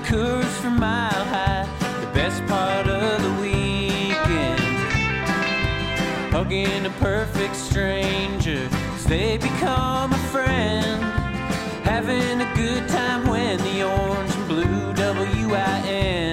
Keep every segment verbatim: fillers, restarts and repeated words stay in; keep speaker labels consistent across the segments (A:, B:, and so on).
A: Coors from Mile High, the best part of the weekend. Hugging a perfect stranger as they become a friend. Having a good time when the orange and blue W I N.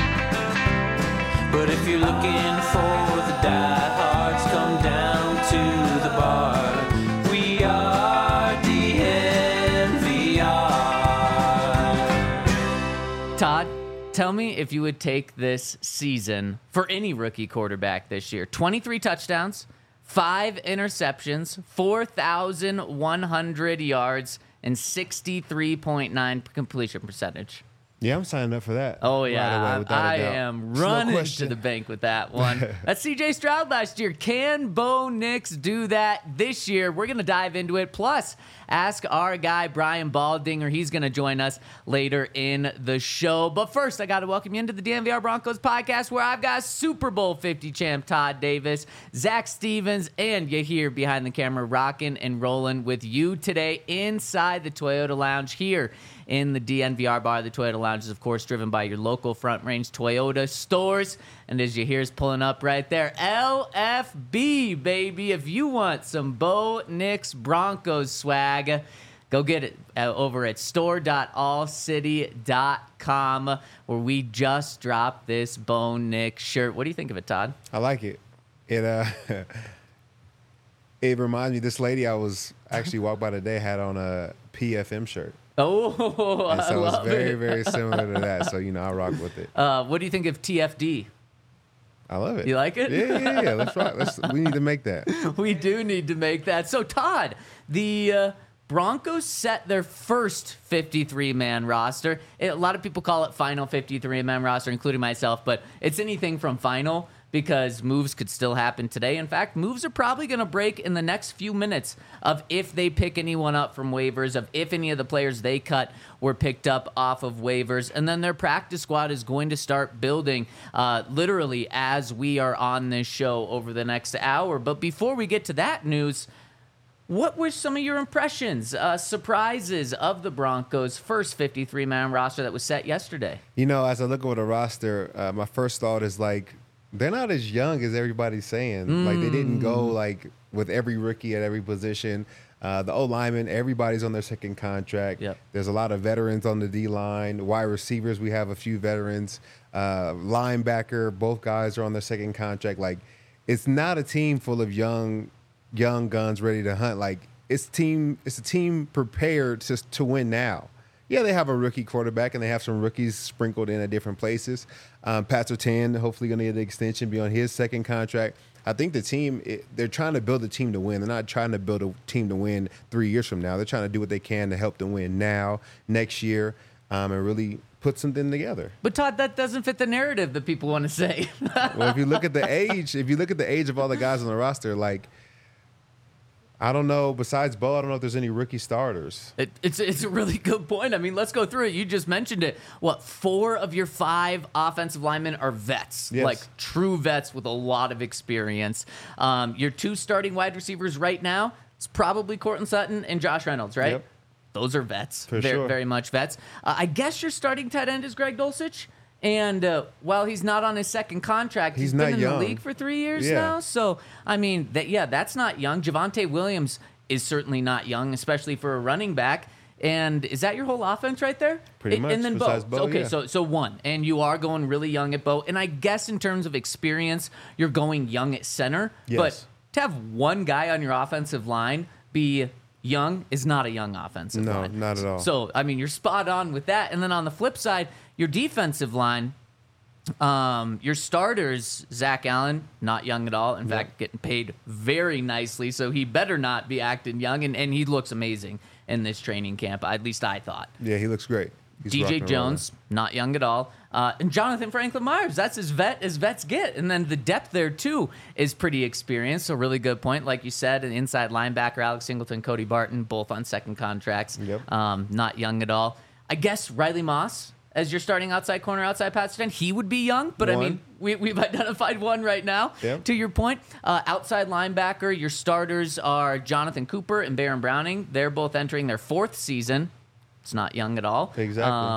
A: But if you're looking for the diehards, come down to the bar. We are D N V R.
B: Todd, tell me if you would take this season for any rookie quarterback this year. twenty-three touchdowns, five interceptions, four thousand one hundred yards, and sixty-three point nine completion percentage.
C: Yeah, I'm signing up for that.
B: Oh, yeah.
C: Right away, without
B: I
C: a doubt.
B: am
C: There's no
B: running
C: question.
B: to the bank with that one. That's C J Stroud last year. Can Bo Nix do that this year? We're going to dive into it. Plus, ask our guy, Brian Baldinger. He's going to join us later in the show. But first, I got to welcome you into the D N V R Broncos podcast, where I've got Super Bowl fifty champ Todd Davis, Zach Stevens, and you here behind the camera rocking and rolling with you today inside the Toyota Lounge here in the D N V R bar. The Toyota Lounge is, of course, driven by your local Front Range Toyota stores. And as you hear is pulling up right there, L F B, baby. If you want some Bo Nix Broncos swag, go get it uh, over at store dot all city dot com, where we just dropped this Bo Nix shirt. What do you think of it, Todd?
C: I like it. It uh, it reminds me. This lady I was actually walked by today had on a P F M shirt.
B: Oh,
C: And
B: I
C: so it's
B: love
C: very,
B: it.
C: very similar to that. So, you know, I rock with it.
B: Uh, what do you think of T F D?
C: I love it.
B: You like it?
C: Yeah, yeah, yeah. Let's rock. Let's, we need to make that.
B: We do need to make that. So, Todd, the uh, Broncos set their first fifty-three man roster. It, a lot of people call it final fifty-three man roster, including myself, but it's anything from final because moves could still happen today. In fact, moves are probably going to break in the next few minutes of if they pick anyone up from waivers, of if any of the players they cut were picked up off of waivers. And then their practice squad is going to start building uh, literally as we are on this show over the next hour. But before we get to that news, what were some of your impressions, uh, surprises of the Broncos' first fifty-three man roster that was set yesterday?
C: You know, as I look over the roster, uh, my first thought is like, they're not as young as everybody's saying. Mm. Like, they didn't go like with every rookie at every position. Uh, the O-linemen, everybody's on their second contract.
B: Yep.
C: There's a lot of veterans on the D-line. Wide receivers, we have a few veterans. Uh, linebacker, both guys are on their second contract. Like, it's not a team full of young young guns ready to hunt. Like, it's team. It's a team prepared to to win now. Yeah, they have a rookie quarterback, and they have some rookies sprinkled in at different places. Um, Pat Surtain, hopefully going to get an extension, be on his second contract. I think the team, it, they're trying to build a team to win. They're not trying to build a team to win three years from now. They're trying to do what they can to help them win now, next year, um, and really put something together.
B: But, Todd, that doesn't fit the narrative that people want to say.
C: Well, if you look at the age, if you look at the age of all the guys on the roster, like, I don't know. Besides Bo, I don't know if there's any rookie starters.
B: It, it's it's a really good point. I mean, let's go through it. You just mentioned it. What, four of your five offensive linemen are vets,
C: Yes.
B: like true vets with a lot of experience. Um, your two starting wide receivers right now, it's probably Courtland Sutton and Josh Reynolds, right?
C: Yep.
B: Those are vets,
C: For
B: very,
C: sure.
B: very much vets. Uh, I guess your starting tight end is Greg Dulcich. And uh, while he's not on his second contract,
C: He's
B: he's
C: not
B: been in
C: young.
B: the league for three years
C: Yeah.
B: now. So, I mean, that yeah, that's not young. Javonte Williams is certainly not young, especially for a running back. And is that your whole offense right there?
C: Pretty
B: And-
C: much,
B: And then
C: besides
B: Bo.
C: Bo,
B: Okay,
C: yeah.
B: so so one, and you are going really young at Bo. And I guess in terms of experience, you're going young at center.
C: Yes.
B: But to have one guy on your offensive line be young is not a young offensive
C: No,
B: line.
C: not at all.
B: So, I mean, you're spot on with that. And then on the flip side, your defensive line, um, your starters, Zach Allen, not young at all. In fact, getting paid very nicely, so he better not be acting young. And, and he looks amazing in this training camp, at least I thought.
C: Yeah, he looks great. He's
B: D J
C: rocking and
B: Jones, not young at all. Uh, and Jonathan Franklin Myers, that's as vet as vets get. And then the depth there, too, is pretty experienced. So really good point. Like you said, an inside linebacker, Alex Singleton, Cody Barton, both on second contracts.
C: Yep.
B: Um, not young at all. I guess Riley Moss, as your starting outside corner, outside pass Surtain, he would be young. But, I
C: One.
B: mean, we, we've identified one right now.
C: Yep.
B: To your point, uh, outside linebacker, your starters are Jonathan Cooper and Baron Browning. They're both entering their fourth season. It's not young at all.
C: Exactly.
B: Um,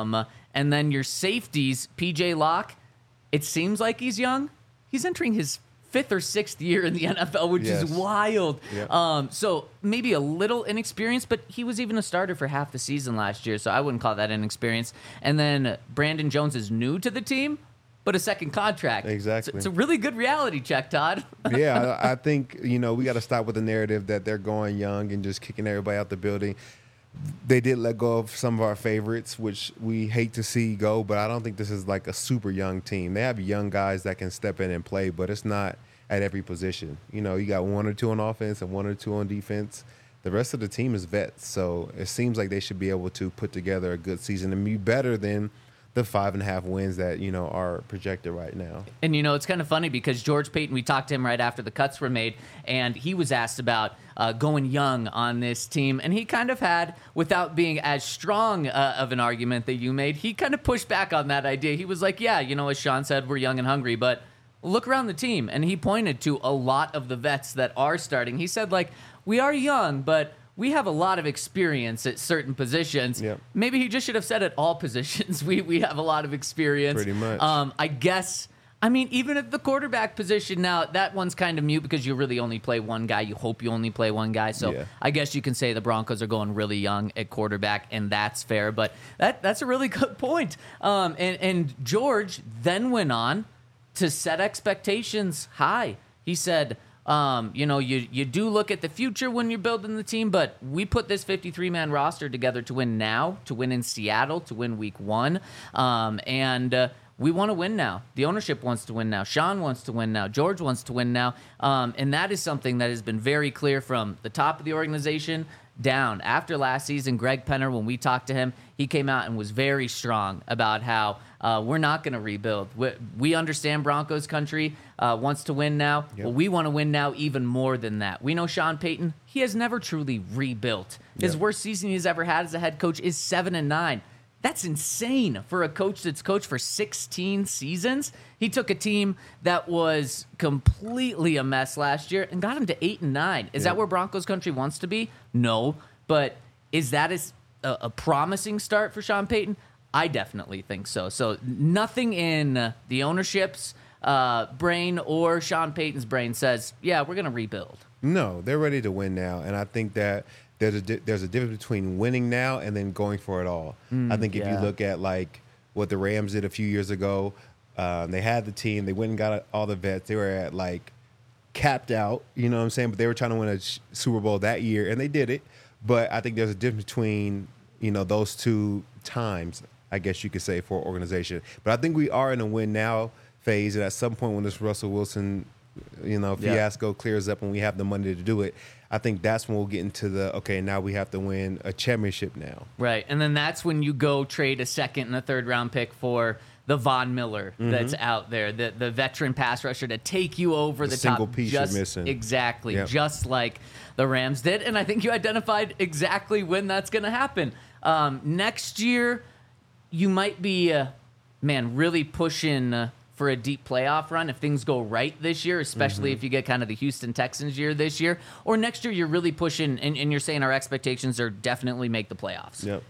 B: And then your safeties, P J Locke, it seems like he's young. He's entering his fifth or sixth year in the N F L, which
C: Yes.
B: is wild.
C: Yep.
B: Um, so maybe a little inexperienced, but he was even a starter for half the season last year, so I wouldn't call that inexperienced. And then Brandon Jones is new to the team, but a second contract.
C: Exactly.
B: So it's a really good reality check, Todd.
C: Yeah, I, I think, you know, we got to stop with the narrative that they're going young and just kicking everybody out the building. They did let go of some of our favorites, which we hate to see go, but I don't think this is like a super young team. They have young guys that can step in and play, but it's not at every position. You know, you got one or two on offense and one or two on defense. The rest of the team is vets, so it seems like they should be able to put together a good season and be better than the five and a half wins that, you know, are projected right now.
B: And, you know, it's kind of funny because George Payton, we talked to him right after the cuts were made, and he was asked about uh, going young on this team. And he kind of had, without being as strong uh, of an argument that you made, he kind of pushed back on that idea. He was like, yeah, you know, as Sean said, we're young and hungry, but look around the team. And he pointed to a lot of the vets that are starting. He said, like, we are young, but we have a lot of experience at certain positions.
C: Yep.
B: Maybe he just should have said at all positions. We we have a lot of experience.
C: Pretty much.
B: Um, I guess. I mean, even at the quarterback position now, that one's kind of mute because you really only play one guy. You hope you only play one guy. So
C: Yeah.
B: I guess you can say the Broncos are going really young at quarterback, and that's fair. But that that's a really good point. Um, and and George then went on to set expectations high. He said, Um, you know, you you do look at the future when you're building the team, but we put this fifty-three man roster together to win now, to win in Seattle, to win week one. Um, and uh, we want to win now. The ownership wants to win now. Sean wants to win now. George wants to win now. Um, and that is something that has been very clear from the top of the organization down. After last season, Greg Penner, when we talked to him, he came out and was very strong about how uh, we're not going to rebuild. We, we understand Broncos country uh, wants to win now.
C: Yep.
B: Well, we want to win now even more than that. We know Sean Payton, he has never truly rebuilt. His
C: Yep.
B: worst season he's ever had as a head coach is seven and nine. That's insane for a coach that's coached for sixteen seasons. He took a team that was completely a mess last year and got him to eight and nine. Is
C: Yeah.
B: that where Broncos country wants to be? No, but is that a, a, a promising start for Sean Payton? I definitely think so. So nothing in uh, the ownership's uh, brain or Sean Payton's brain says, yeah, we're going to rebuild.
C: No, they're ready to win now, and I think that there's a di- there's a difference between winning now and then going for it all. I think if
B: yeah.
C: you look at like what the Rams did a few years ago, um, they had the team, they went and got all the vets. They were at like capped out, you know what I'm saying? But they were trying to win a sh- Super Bowl that year, and they did it. But I think there's a difference between, you know, those two times, I guess you could say, for an organization. But I think we are in a win now phase, and at some point when this Russell Wilson, you know,
B: Yeah.
C: fiasco clears up and we have the money to do it, I think that's when we'll get into the, okay, now we have to win a championship now.
B: Right. And then that's when you go trade a second and a third round pick for the Von Miller that's out there, the the veteran pass rusher to take you over
C: The
B: the,
C: single
B: top.
C: piece you're
B: just,
C: missing.
B: Exactly.
C: Yep.
B: Just like the Rams did. And I think you identified exactly when that's going to happen. Um, next year, you might be, uh, man, really pushing uh, for a deep playoff run if things go right this year, especially if you get kind of the Houston Texans year this year. Or next year, you're really pushing, and, and you're saying our expectations are definitely make the playoffs.
C: Yep.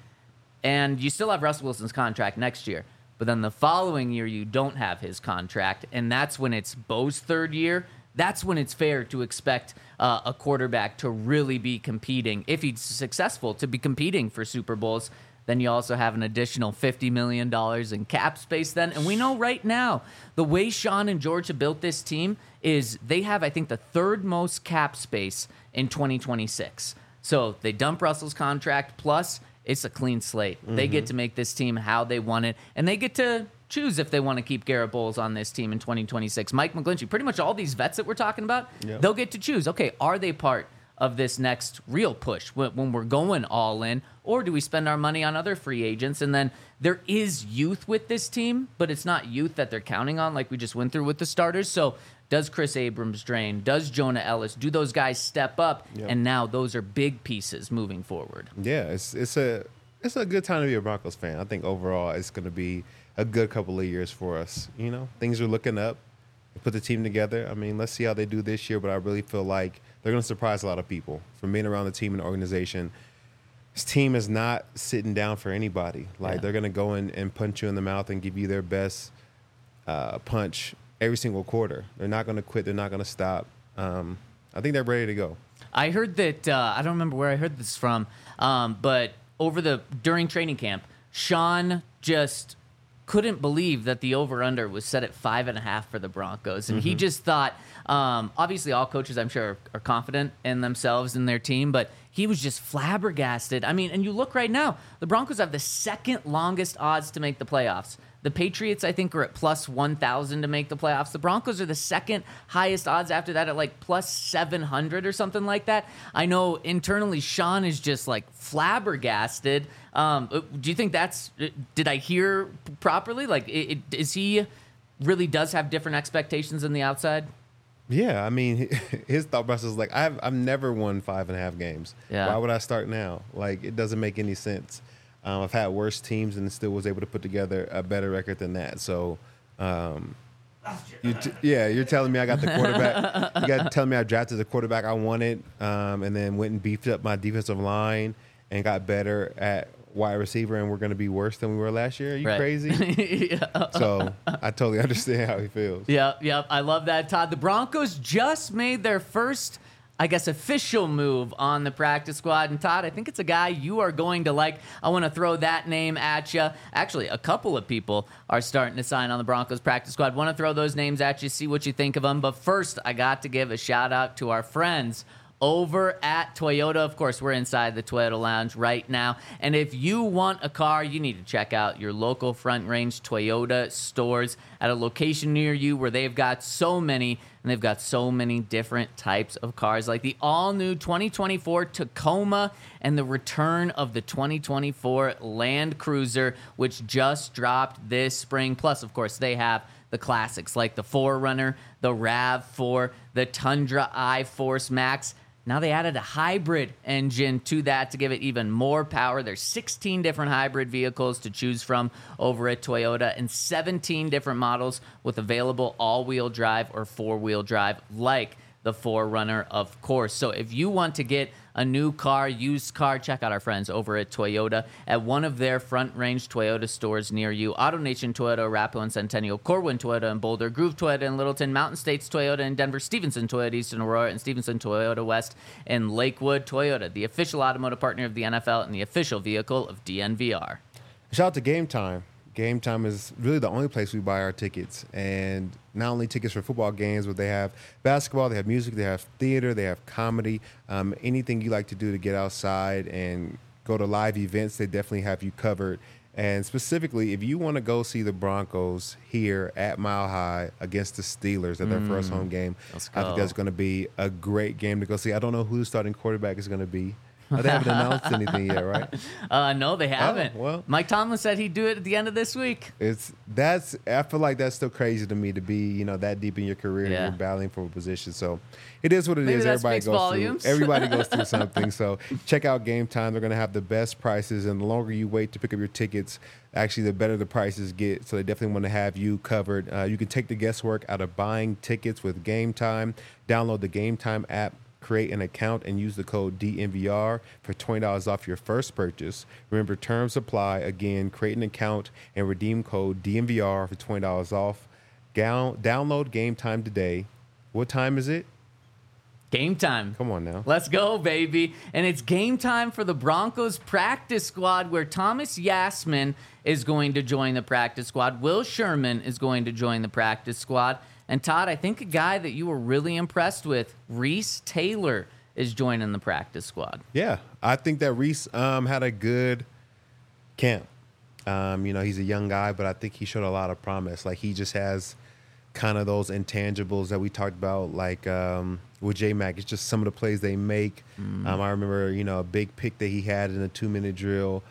B: And you still have Russell Wilson's contract next year. But then the following year, you don't have his contract. And that's when it's Bo's third year. That's when it's fair to expect uh, a quarterback to really be competing, if he's successful, to be competing for Super Bowls. Then you also have an additional fifty million dollars in cap space then. And we know right now, the way Sean and George have built this team is they have, I think, the third most cap space in twenty twenty-six. So they dump Russell's contract, plus it's a clean slate. They get to make this team how they want it, and they get to choose if they want to keep Garrett Bowles on this team in twenty twenty-six. Mike McGlinchey, pretty much all these vets that we're talking about,
C: Yep.
B: they'll get to choose. Okay, are they part of this next real push when, when we're going all in, or do we spend our money on other free agents? And then there is youth with this team, but it's not youth that they're counting on like we just went through with the starters. So does Chris Abrams drain? Does Jonah Ellis? Do those guys step up?
C: Yep.
B: And now those are big pieces moving forward.
C: Yeah, it's it's a it's a good time to be a Broncos fan. I think overall it's going to be a good couple of years for us. You know, things are looking up. They put the team together. I mean, let's see how they do this year, but I really feel like they're going to surprise a lot of people from being around the team and the organization. this team is not sitting down for anybody. Like
B: Yeah.
C: they're gonna go in and punch you in the mouth and give you their best uh, punch every single quarter. They're not gonna quit. They're not gonna stop. Um, I think they're ready to go.
B: I heard that uh, I don't remember where I heard this from, um, but over the during training camp, Sean just couldn't believe that the over-under was set at five and a half for the Broncos. And he just thought, um, obviously all coaches, I'm sure, are, are confident in themselves and their team, but he was just flabbergasted. I mean, and you look right now, the Broncos have the second longest odds to make the playoffs. The Patriots, I think, are at plus one thousand to make the playoffs. The Broncos are the second highest odds after that at like plus seven hundred or something like that. I know internally Sean is just like flabbergasted. Um, do you think that's, did I hear properly? Like, it, it, is he really does have different expectations than the outside?
C: Yeah, I mean, his thought process is like, I've I've never won five and a half games.
B: Yeah.
C: Why would I start now? Like, it doesn't make any sense. Um, I've had worse teams and still was able to put together a better record than that. So, um, you t- yeah, you're telling me I got the quarterback. You got telling me I drafted the quarterback I wanted, um, and then went and beefed up my defensive line and got better at wide receiver, and we're going to be worse than we were last year. Are you
B: Right.
C: crazy?
B: Yeah.
C: So I totally understand how he feels.
B: Yep, yep. I love that, Todd. The Broncos just made their first, I guess, official move on the practice squad. And Todd, I think it's a guy you are going to like. I want to throw that name at you. Actually, a couple of people are starting to sign on the Broncos practice squad. Want to throw those names at you, see what you think of them. But first, I got to give a shout out to our friends over at Toyota. Of course, we're inside the Toyota Lounge right now. And if you want a car, you need to check out your local Front Range Toyota stores at a location near you where they've got so many, and they've got so many different types of cars, like the all-new twenty twenty-four Tacoma and the return of the twenty twenty-four Land Cruiser, which just dropped this spring. Plus, of course, they have the classics like the four runner, the RAV four, the Tundra iForce Max. Now they added a hybrid engine to that to give it even more power. There's sixteen different hybrid vehicles to choose from over at Toyota and seventeen different models with available all-wheel drive or four-wheel drive like the four runner, of course. So if you want to get a new car, used car, check out our friends over at Toyota at one of their Front Range Toyota stores near you. AutoNation Toyota, Arapahoe and Centennial, Corwin Toyota and Boulder, Groove Toyota in Littleton, Mountain States Toyota in Denver, Stevenson Toyota East in Aurora, and Stevenson Toyota West in Lakewood. Toyota, the official automotive partner of the N F L and the official vehicle of D N V R.
C: Shout out to Game Time. Game Time is really the only place we buy our tickets, and not only tickets for football games, but they have basketball, they have music, they have theater, they have comedy, um, anything you like to do to get outside and go to live events, they definitely have you covered. And specifically, if you want to go see the Broncos here at Mile High against the Steelers at their mm, first home game,
B: let's
C: I
B: go.
C: think that's going to be a great game to go see. I don't know who the starting quarterback is going to be. Oh, they haven't announced anything yet, right?
B: Uh, no, they haven't.
C: Oh, well.
B: Mike Tomlin said he'd do it at the end of this week.
C: It's that's I feel like that's still crazy to me to be, you know, that deep in your career
B: Yeah.
C: and you're battling for a position. So it is what it
B: Maybe
C: is.
B: that
C: Everybody
B: speaks
C: goes
B: volumes.
C: through everybody goes through something. So check out Game Time. They're gonna have the best prices, and the longer you wait to pick up your tickets, actually the better the prices get. So they definitely want to have you covered. Uh, you can take the guesswork out of buying tickets with Game Time. Download the Game Time app, create an account, and use the code D N V R for twenty dollars off your first purchase. Remember, terms apply. Again, create an account and redeem code D N V R for twenty dollars off. Down, download Game Time today. What time is it?
B: Game time.
C: Come on now.
B: Let's go, baby. And it's game time for the Broncos practice squad, where Thomas Yasman is going to join the practice squad. Will Sherman is going to join the practice squad. And Todd, I think a guy that you were really impressed with, Reese Taylor, is joining the practice squad.
C: Yeah, I think that Reese um, had a good camp. Um, you know, he's a young guy, but I think he showed a lot of promise. Like, he just has kind of those intangibles that we talked about, like um, with J-Mac. It's just some of the plays they make. Mm. Um, I remember, you know, a big pick that he had in a two-minute drill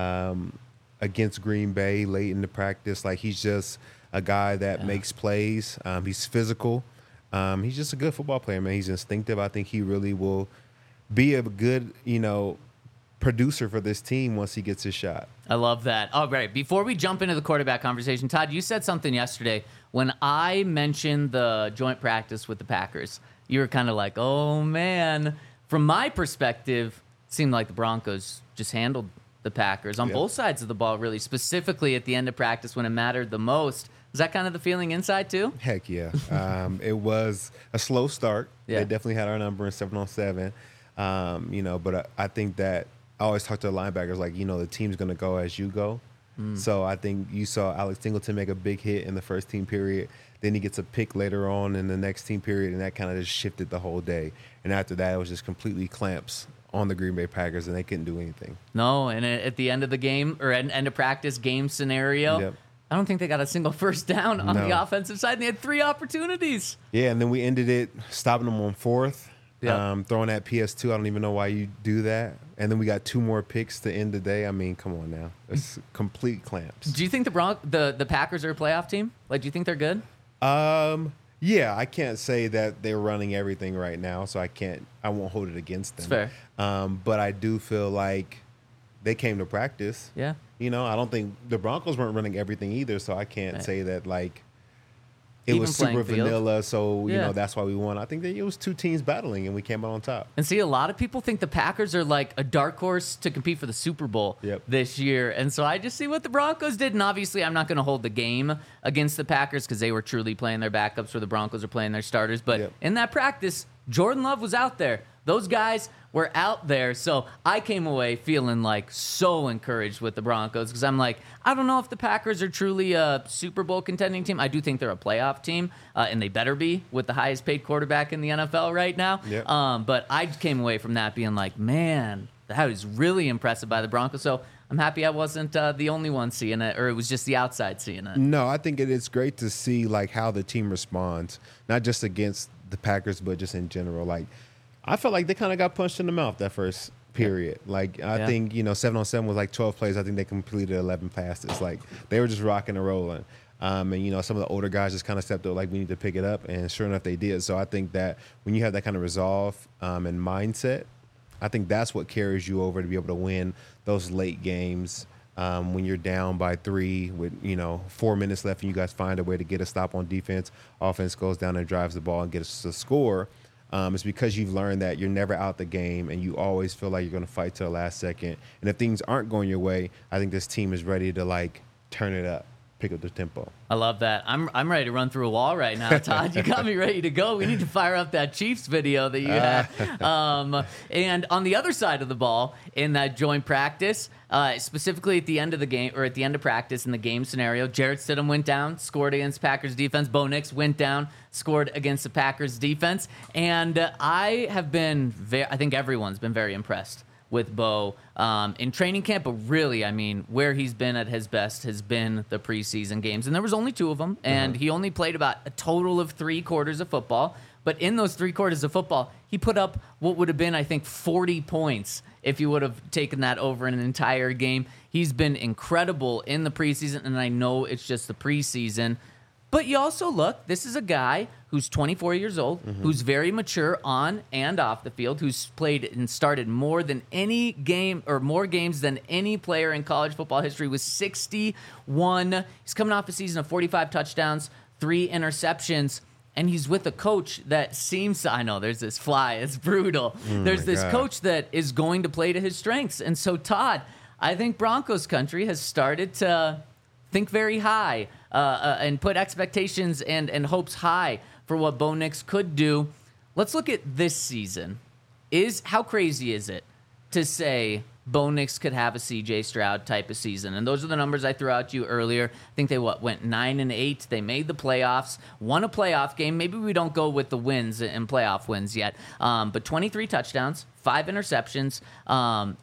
C: um, against Green Bay late in the practice. Like, he's just a guy that yeah. makes plays. Um, he's physical. Um, he's just a good football player, man. He's instinctive. I think he really will be a good, you know, producer for this team once he gets his shot.
B: I love that. All right, before we jump into the quarterback conversation, Todd, you said something yesterday when I mentioned the joint practice with the Packers. You were kind of like, oh, man. From my perspective, seemed like the Broncos just handled the Packers on
C: Yep.
B: both sides of the ball, really, specifically at the end of practice when it mattered the most. Was that kind of the feeling inside, too?
C: Heck yeah. Um, it was a slow start.
B: Yeah.
C: They definitely had our number in seven on seven. Um, you know, but I, I think that I always talk to the linebackers like, you know, the team's going to go as you go.
B: Mm.
C: So I think you saw Alex Singleton make a big hit in the first team period. Then he gets a pick later on in the next team period, and that kind of just shifted the whole day. And after that, it was just completely clamps on the Green Bay Packers, and they couldn't do anything.
B: No, and at the end of the game, or at end of practice game scenario,
C: Yep.
B: I don't think they got a single first down on
C: No.
B: the offensive side. And they had three opportunities.
C: Yeah, and then we ended it stopping them on fourth,
B: Yep.
C: um, throwing that P S two. I don't even know why you do that. And then we got two more picks to end the day. I mean, come on now. It's complete clamps.
B: Do you think the Bron- the the Packers are a playoff team? Like, do you think they're good?
C: Um, yeah, I can't say that they're running everything right now, so I can't, I won't hold it against them.
B: It's fair.
C: Um, but I do feel like they came to practice.
B: Yeah.
C: You know, I don't think the Broncos weren't running everything either, so I can't
B: Right.
C: say that like it
B: Even
C: was
B: playing
C: super
B: field.
C: vanilla. So you
B: Yeah.
C: know that's why we won. I think that it was two teams battling, and we came out on top.
B: And see, a lot of people think the Packers are like a dark horse to compete for the Super Bowl
C: Yep.
B: this year. And so I just see what the Broncos did. And obviously, I'm not going to hold the game against the Packers because they were truly playing their backups where the Broncos are playing their starters. But
C: Yep.
B: in that practice, Jordan Love was out there. Those guys were out there. So I came away feeling like so encouraged with the Broncos because I'm like, I don't know if the Packers are truly a Super Bowl contending team. I do think they're a playoff team, uh, and they better be with the highest paid quarterback in the N F L right now.
C: Yep.
B: Um, but I came away from that being like, man, that was really impressive by the Broncos. So I'm happy I wasn't uh, the only one seeing it, or it was just the outside seeing it.
C: No, I think it is great to see like how the team responds, not just against the Packers, but just in general. Like, I felt like they kind of got punched in the mouth that first period. Like, I
B: Yeah.
C: think, you know, seven on seven was like twelve plays. I think they completed eleven passes. Like, they were just rocking and rolling. Um, and, you know, some of the older guys just kind of stepped up, like, we need to pick it up. And sure enough, they did. So I think that when you have that kind of resolve um, and mindset, I think that's what carries you over to be able to win those late games. Um, when you're down by three with, you know, four minutes left and you guys find a way to get a stop on defense, offense goes down and drives the ball and gets a score. Um, it's because you've learned that you're never out the game and you always feel like you're going to fight to the last second. And if things aren't going your way, I think this team is ready to, like, turn it up, pick up the tempo.
B: I love that. I'm I'm ready to run through a wall right now, Todd. You got me ready to go. We need to fire up that Chiefs video that you had. Um, and on the other side of the ball, in that joint practice, uh, specifically at the end of the game or at the end of practice in the game scenario, Jarrett Stidham went down, scored against Packers defense. Bo Nix went down, scored against the Packers defense. And uh, I have been, very, I think everyone's been very impressed with Bo um, in training camp, but really, I mean, where he's been at his best has been the preseason games, and there was only two of them, and he only played about a total of three quarters of football. But in those three quarters of football, he put up what would have been, I think, forty points if you would have taken that over an entire game. He's been incredible in the preseason, and I know it's just the preseason. But you also look, this is a guy who's twenty-four years old,
C: Mm-hmm.
B: who's very mature on and off the field, who's played and started more than any game or more games than any player in college football history with sixty-one. He's coming off a season of forty-five touchdowns, three interceptions, and he's with a coach that seems to, I know there's this fly, it's brutal. there's
C: my
B: this
C: God.
B: coach that is going to play to his strengths. And so, Todd, I think Broncos country has started to think very high uh, uh, and put expectations and, and hopes high for what Bo Nix could do. Let's look at this season. Is how crazy is it to say Bo Nix could have a C J Stroud type of season? And those are the numbers I threw out to you earlier. I think they what went nine and eight. They made the playoffs, won a playoff game. Maybe we don't go with the wins and playoff wins yet, um, but twenty-three touchdowns, five interceptions, um,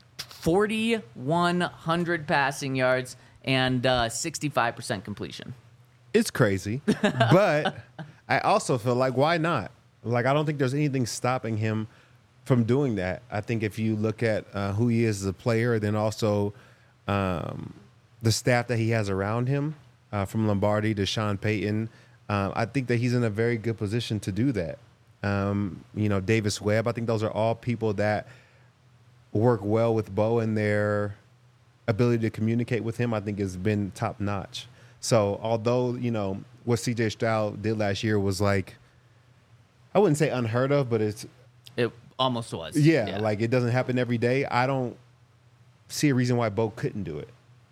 B: forty-one hundred passing yards, and uh, sixty-five percent completion.
C: It's crazy, but I also feel like, why not? Like, I don't think there's anything stopping him from doing that. I think if you look at uh, who he is as a player, then also um, the staff that he has around him, uh, from Lombardi to Sean Payton, uh, I think that he's in a very good position to do that. Um, you know, Davis Webb, I think those are all people that work well with Bo, and their ability to communicate with him, I think, has been top notch. So although, you know, what C J Stroud did last year was like, I wouldn't say unheard of, but it's
B: It almost was.
C: Yeah, like it doesn't happen every day. I don't see a reason why Bo couldn't do it.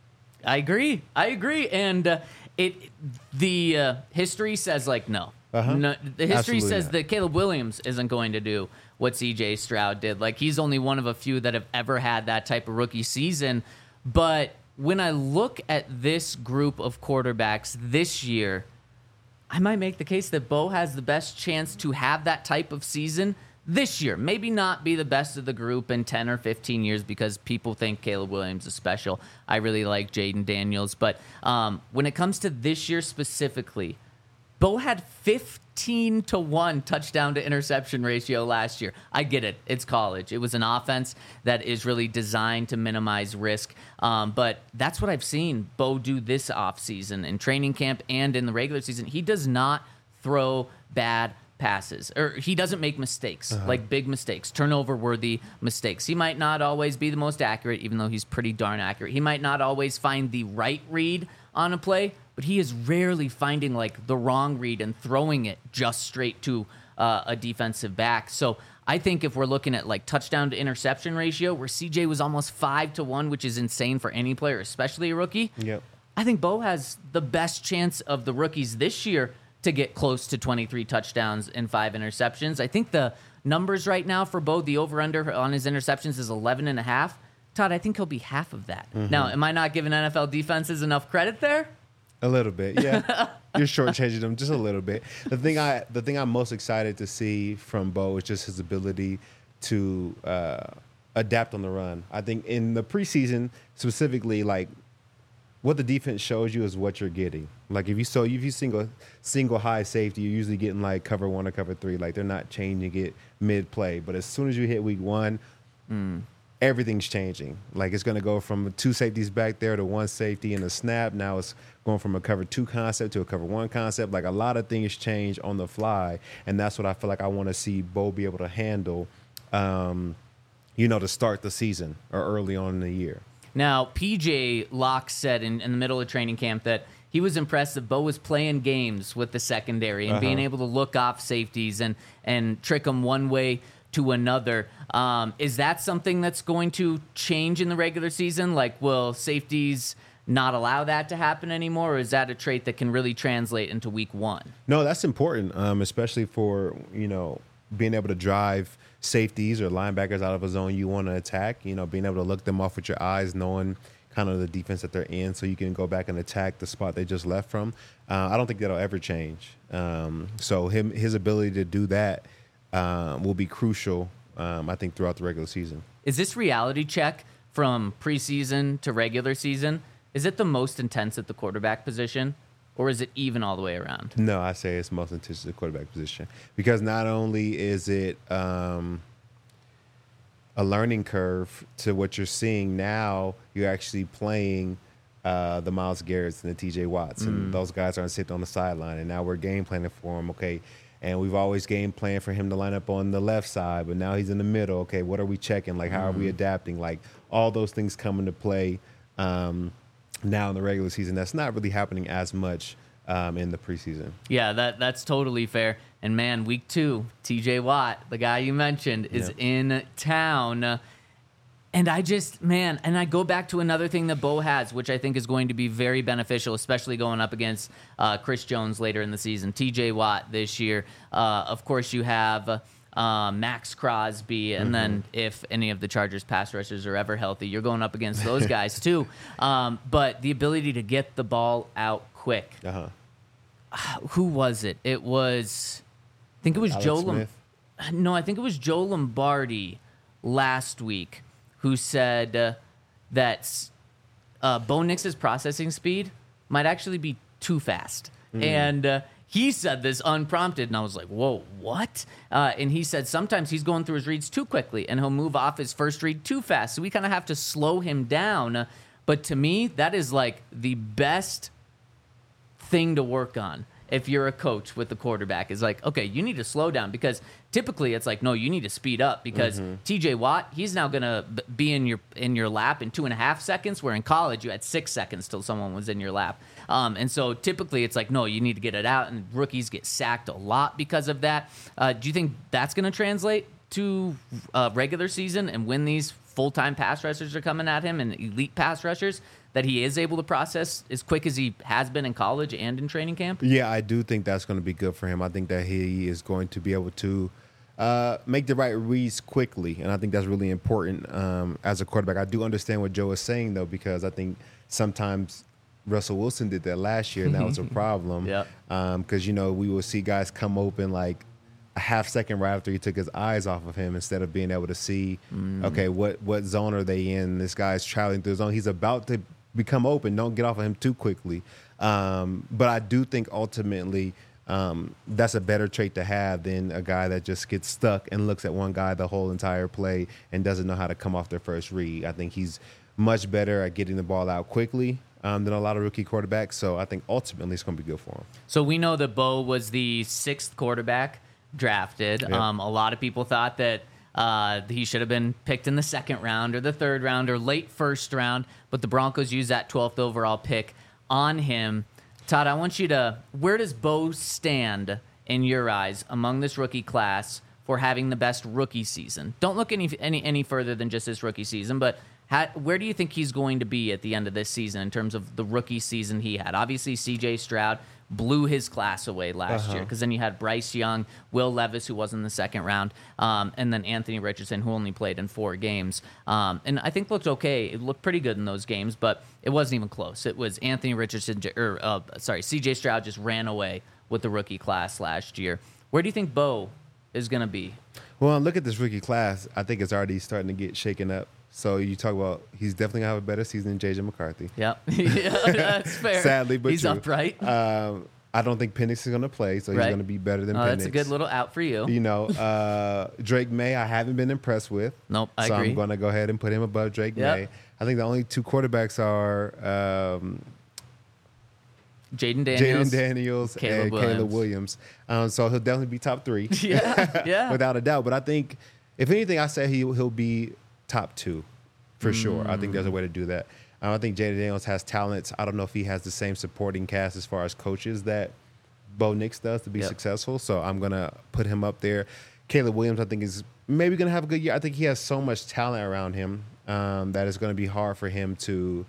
B: I agree. I agree. And uh, it the uh, history says like no.
C: Uh-huh.
B: no. The history
C: Absolutely
B: says
C: not.
B: that Caleb Williams isn't going to do what C J Stroud did. Like he's only one of a few that have ever had that type of rookie season. But when I look at this group of quarterbacks this year, I might make the case that Bo has the best chance to have that type of season this year. Maybe not be the best of the group in ten or fifteen years because people think Caleb Williams is special. I really like Jaden Daniels. But um, when it comes to this year specifically, Bo had fifteen to one touchdown to interception ratio last year. I get it. It's college. It was an offense that is really designed to minimize risk. Um, but that's what I've seen Bo do this offseason in training camp and in the regular season. He does not throw bad passes, or he doesn't make mistakes, uh-huh. like big mistakes, turnover-worthy mistakes. He might not always be the most accurate, even though he's pretty darn accurate. He might not always find the right read on a play, but he is rarely finding like the wrong read and throwing it just straight to uh, a defensive back. So I think if we're looking at like touchdown to interception ratio, where C J was almost five to one, which is insane for any player, especially a rookie.
C: Yep.
B: I think Bo has the best chance of the rookies this year to get close to twenty-three touchdowns and five interceptions. I think the numbers right now for Bo, the over-under on his interceptions is eleven and a half. Todd, I think he'll be half of that. Mm-hmm. Now, am I not giving N F L defenses enough credit there?
C: A little bit, yeah. You're shortchanging them just a little bit. The thing I, the thing I'm most excited to see from Bo is just his ability to uh, adapt on the run. I think in the preseason, specifically, like what the defense shows you is what you're getting. Like if you so if you single single high safety, you're usually getting like cover one or cover three. Like they're not changing it mid play. But as soon as you hit week one, mm. everything's changing. Like it's going to go from two safeties back there to one safety and a snap. Now it's going from a cover two concept to a cover one concept. Like a lot of things change on the fly, and that's what I feel like I want to see Bo be able to handle, um, you know, to start the season or early on in the year.
B: Now, P J Locke said in, in the middle of training camp that he was impressed that Bo was playing games with the secondary and uh-huh. being able to look off safeties and, and trick them one way to another. Um, is that something that's going to change in the regular season? Like, will safeties not allow that to happen anymore, or is that a trait that can really translate into week one?
C: No, that's important, um, especially for, you know, being able to drive safeties or linebackers out of a zone you want to attack, you know, being able to look them off with your eyes, knowing kind of the defense that they're in so you can go back and attack the spot they just left from. Uh, I don't think that'll ever change. Um, so him his ability to do that um, will be crucial, um, I think, throughout the regular season.
B: Is this reality check from preseason to regular season? Is it the most intense at the quarterback position, or is it even all the way around?
C: No, I say it's most intense at the quarterback position because not only is it um, a learning curve to what you're seeing now, you're actually playing uh, the Myles Garretts and the T J Watts, mm. and those guys aren't sitting on the sideline, and now we're game planning for them, okay? And we've always game planned for him to line up on the left side, but now he's in the middle. Okay, what are we checking? Like, how mm. are we adapting? Like, all those things come into play um, now in the regular season. That's not really happening as much um, in the preseason.
B: Yeah, that that's totally fair. And, man, week two, T J Watt, the guy you mentioned, is yeah. in town. And I just, man, and I go back to another thing that Bo has, which I think is going to be very beneficial, especially going up against uh, Chris Jones later in the season. T J Watt this year. Uh, of course, you have uh, Max Crosby, and mm-hmm. then if any of the Chargers pass rushers are ever healthy, you're going up against those guys too. Um, but the ability to get the ball out quick.
C: Uh-huh.
B: Who was it? It was, I think it was
C: Alex
B: Joe.
C: Smith?
B: Lom- no, I think it was Joe Lombardi last week, who said uh, that uh, Bo Nix's processing speed might actually be too fast. Mm. And uh, he said this unprompted, and I was like, whoa, what? Uh, and he said sometimes he's going through his reads too quickly, and he'll move off his first read too fast. So we kind of have to slow him down. But to me, that is like the best thing to work on. If you're a coach with the quarterback, is like, okay, you need to slow down, because typically it's like, no, you need to speed up, because mm-hmm. T J Watt, he's now gonna be in your in your lap in two and a half seconds, where in college you had six seconds till someone was in your lap. Um, and so typically it's like, no, you need to get it out, and rookies get sacked a lot because of that. Uh, do you think that's gonna translate to uh, regular season and when these full-time pass rushers are coming at him and elite pass rushers, that he is able to process as quick as he has been in college and in training camp?
C: Yeah, I do think that's going to be good for him. I think that he is going to be able to uh, make the right reads quickly, and I think that's really important um, as a quarterback. I do understand what Joe is saying, though, because I think sometimes Russell Wilson did that last year, and that was a problem.
B: Yeah.
C: Because, um, you know, we will see guys come open like a half second right after he took his eyes off of him instead of being able to see, mm. okay, what, what zone are they in? This guy's traveling through the zone. He's about to become open. Don't get off of him too quickly. Um, but I do think ultimately um, that's a better trait to have than a guy that just gets stuck and looks at one guy the whole entire play and doesn't know how to come off their first read. I think he's much better at getting the ball out quickly um, than a lot of rookie quarterbacks. So I think ultimately it's going to be good for him.
B: So we know that Bo was the sixth quarterback drafted.
C: Yep.
B: Um, a lot of people thought that Uh, he should have been picked in the second round or the third round or late first round, but the Broncos used that twelfth overall pick on him. Todd, I want you to, where does Bo stand in your eyes among this rookie class for having the best rookie season? Don't look any any, any further than just this rookie season, but how, where do you think he's going to be at the end of this season in terms of the rookie season he had? Obviously, C J Stroud blew his class away last
C: uh-huh.
B: year because then you had Bryce Young, Will Levis, who was in the second round, um, and then Anthony Richardson, who only played in four games. Um, and I think looked okay. It looked pretty good in those games, but it wasn't even close. It was Anthony Richardson, or uh, sorry, C J Stroud just ran away with the rookie class last year. Where do you think Bo is going to be?
C: Well, look at this rookie class. I think it's already starting to get shaken up. So you talk about he's definitely going to have a better season than J J McCarthy.
B: Yep. yeah, that's fair.
C: Sadly, but
B: he's
C: true.
B: upright.
C: Um, I don't think Penix is going to play, so he's
B: Right.
C: going to be better than
B: Oh,
C: Penix.
B: that's a good little out for you.
C: You know, uh, Drake May, I haven't been impressed with.
B: Nope, I
C: so
B: agree.
C: I'm going to go ahead and put him above Drake
B: Yep.
C: May. I think the only two quarterbacks are um,
B: Jaden Daniels.
C: Jaden Daniels
B: Caleb
C: and
B: Williams.
C: Caleb Williams. Um, so he'll definitely be top three.
B: yeah, yeah.
C: Without a doubt. But I think, if anything, I say he, he'll be top two for sure. I think there's a way to do that. Um, I think Jaden Daniels has talents. I don't know if he has the same supporting cast as far as coaches that Bo Nix does to be
B: Yep.
C: successful. So I'm going to put him up there. Caleb Williams, I think, is maybe going to have a good year. I think he has so much talent around him um, that it's going to be hard for him to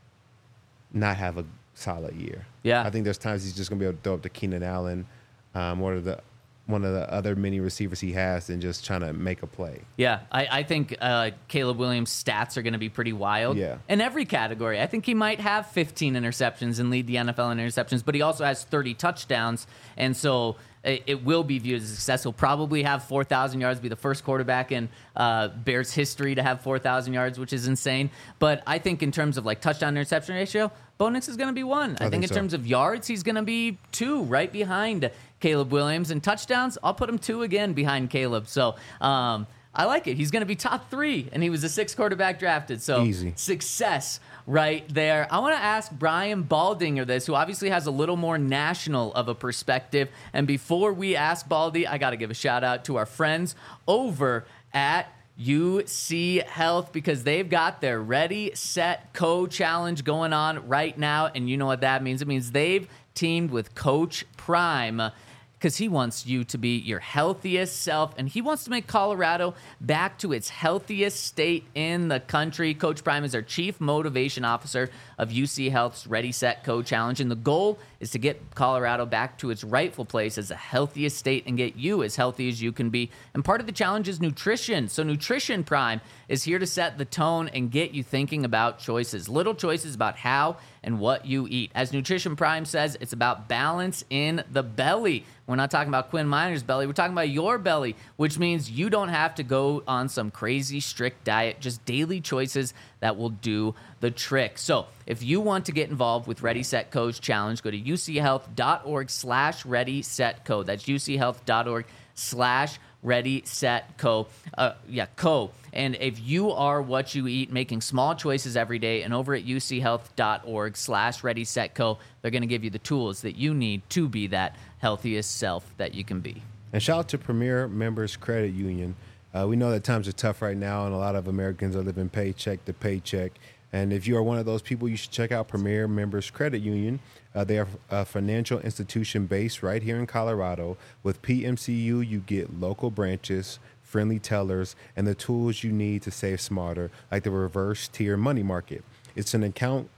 C: not have a solid year.
B: Yeah.
C: I think there's times he's just going to be able to throw up to Keenan Allen, um, one of the one of the other many receivers he has, and just trying to make a play.
B: Yeah, I, I think uh, Caleb Williams' stats are going to be pretty wild.
C: Yeah.
B: In every category. I think he might have fifteen interceptions and lead the N F L in interceptions, but he also has thirty touchdowns, and so it, it will be viewed as a success. He'll probably have four thousand yards, be the first quarterback in uh, Bears history to have four thousand yards, which is insane. But I think in terms of like touchdown interception ratio, Bo Nix is going to be one. I,
C: I
B: think,
C: think
B: in
C: so.
B: terms of yards, he's going to be two, right behind Caleb Williams. And touchdowns, I'll put him two again behind Caleb. So um, I like it. He's going to be top three, and he was the sixth quarterback drafted. So
C: Easy.
B: Success right there. I want to ask Brian Baldinger this, who obviously has a little more national of a perspective. And before we ask Baldy, I got to give a shout out to our friends over at U C Health, because they've got their Ready, Set, Co challenge going on right now. And you know what that means? It means they've teamed with Coach Prime, because he wants you to be your healthiest self, and he wants to make Colorado back to its healthiest state in the country. Coach Prime is our Chief Motivation Officer of U C Health's Ready, Set, Co challenge, and the goal is to get Colorado back to its rightful place as the healthiest state and get you as healthy as you can be. And part of the challenge is nutrition. So Nutrition Prime is here to set the tone and get you thinking about choices, little choices about how and what you eat. As Nutrition Prime says, it's about balance in the belly. We're not talking about Quinn Miner's belly. We're talking about your belly, which means you don't have to go on some crazy strict diet, just daily choices that will do the trick. So if you want to get involved with Ready, Set, Co's challenge, go to uchealth.org slash Ready, Set, Co. That's uchealth.org slash Ready, Set, Co. Uh, yeah, Co. And if you are what you eat, making small choices every day, and over at uchealth.org slash Ready, Set, Co, they're going to give you the tools that you need to be that healthiest self that you can be.
C: And shout out to Premier Members Credit Union. Uh, we know that times are tough right now, and a lot of Americans are living paycheck to paycheck. And if you are one of those people, you should check out Premier Members Credit Union. Uh, they are a financial institution based right here in Colorado. With P M C U, you get local branches, friendly tellers, and the tools you need to save smarter, like the reverse tier money market. It's an account.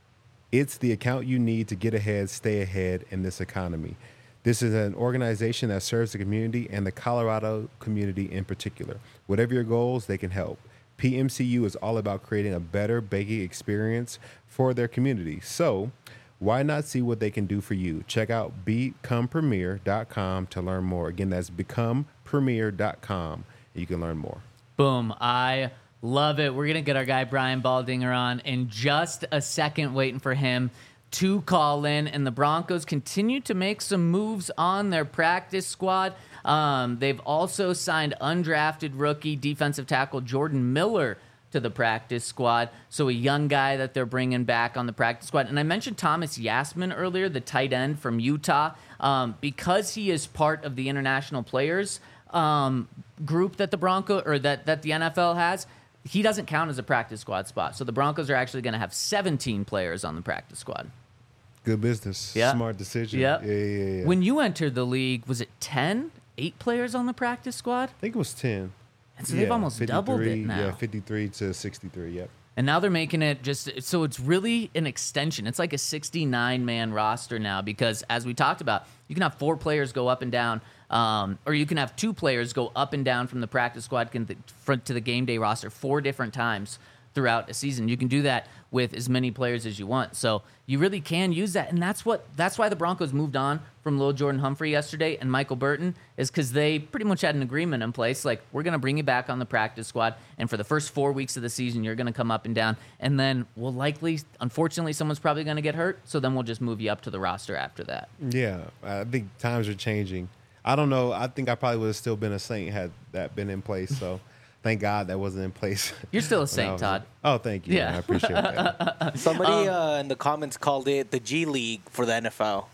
C: It's the account you need to get ahead, stay ahead in this economy. This is an organization that serves the community and the Colorado community in particular. Whatever your goals, they can help. P M C U is all about creating a better banking experience for their community. So why not see what they can do for you? Check out become premier dot com to learn more. Again, that's become premier dot com. You can learn more.
B: Boom. I love it. We're going to get our guy Brian Baldinger on in just a second, waiting for him to call in. And the Broncos continue to make some moves on their practice squad. Um, they've also signed undrafted rookie defensive tackle Jordan Miller to the practice squad. So a young guy that they're bringing back on the practice squad. And I mentioned Thomas Yasmin earlier, the tight end from Utah, um, because he is part of the international players um, group that the Bronco or that, that the N F L has. He doesn't count as a practice squad spot. So the Broncos are actually going to have seventeen players on the practice squad.
C: Good business.
B: Yeah.
C: Smart decision.
B: Yeah.
C: Yeah, yeah, yeah.
B: When you entered the league, was it ten? Eight players on the practice squad?
C: I think it was ten.
B: And so they've almost doubled it
C: fifty-three,
B: now.
C: Yeah, fifty-three to sixty-three, yep.
B: And now they're making it just so it's really an extension. It's like a sixty-nine man roster now because, as we talked about, you can have four players go up and down, um, or you can have two players go up and down from the practice squad to the game day roster four different times throughout a season. You can do that with as many players as you want. So you really can use that. And that's what that's why the Broncos moved on from Lil Jordan Humphrey yesterday and Michael Burton, is because they pretty much had an agreement in place. Like, we're going to bring you back on the practice squad. And for the first four weeks of the season, you're going to come up and down. And then we'll likely, unfortunately, someone's probably going to get hurt. So then we'll just move you up to the roster after that.
C: Yeah, I think times are changing. I don't know. I think I probably would have still been a Saint had that been in place. So thank God that wasn't in place.
B: You're still a
C: when I
B: Saint,
C: was-
B: Todd.
C: Oh, thank you.
B: Yeah.
C: Man. I appreciate that.
D: Somebody
B: Um,
D: uh, in the comments called it the G League for the N F L.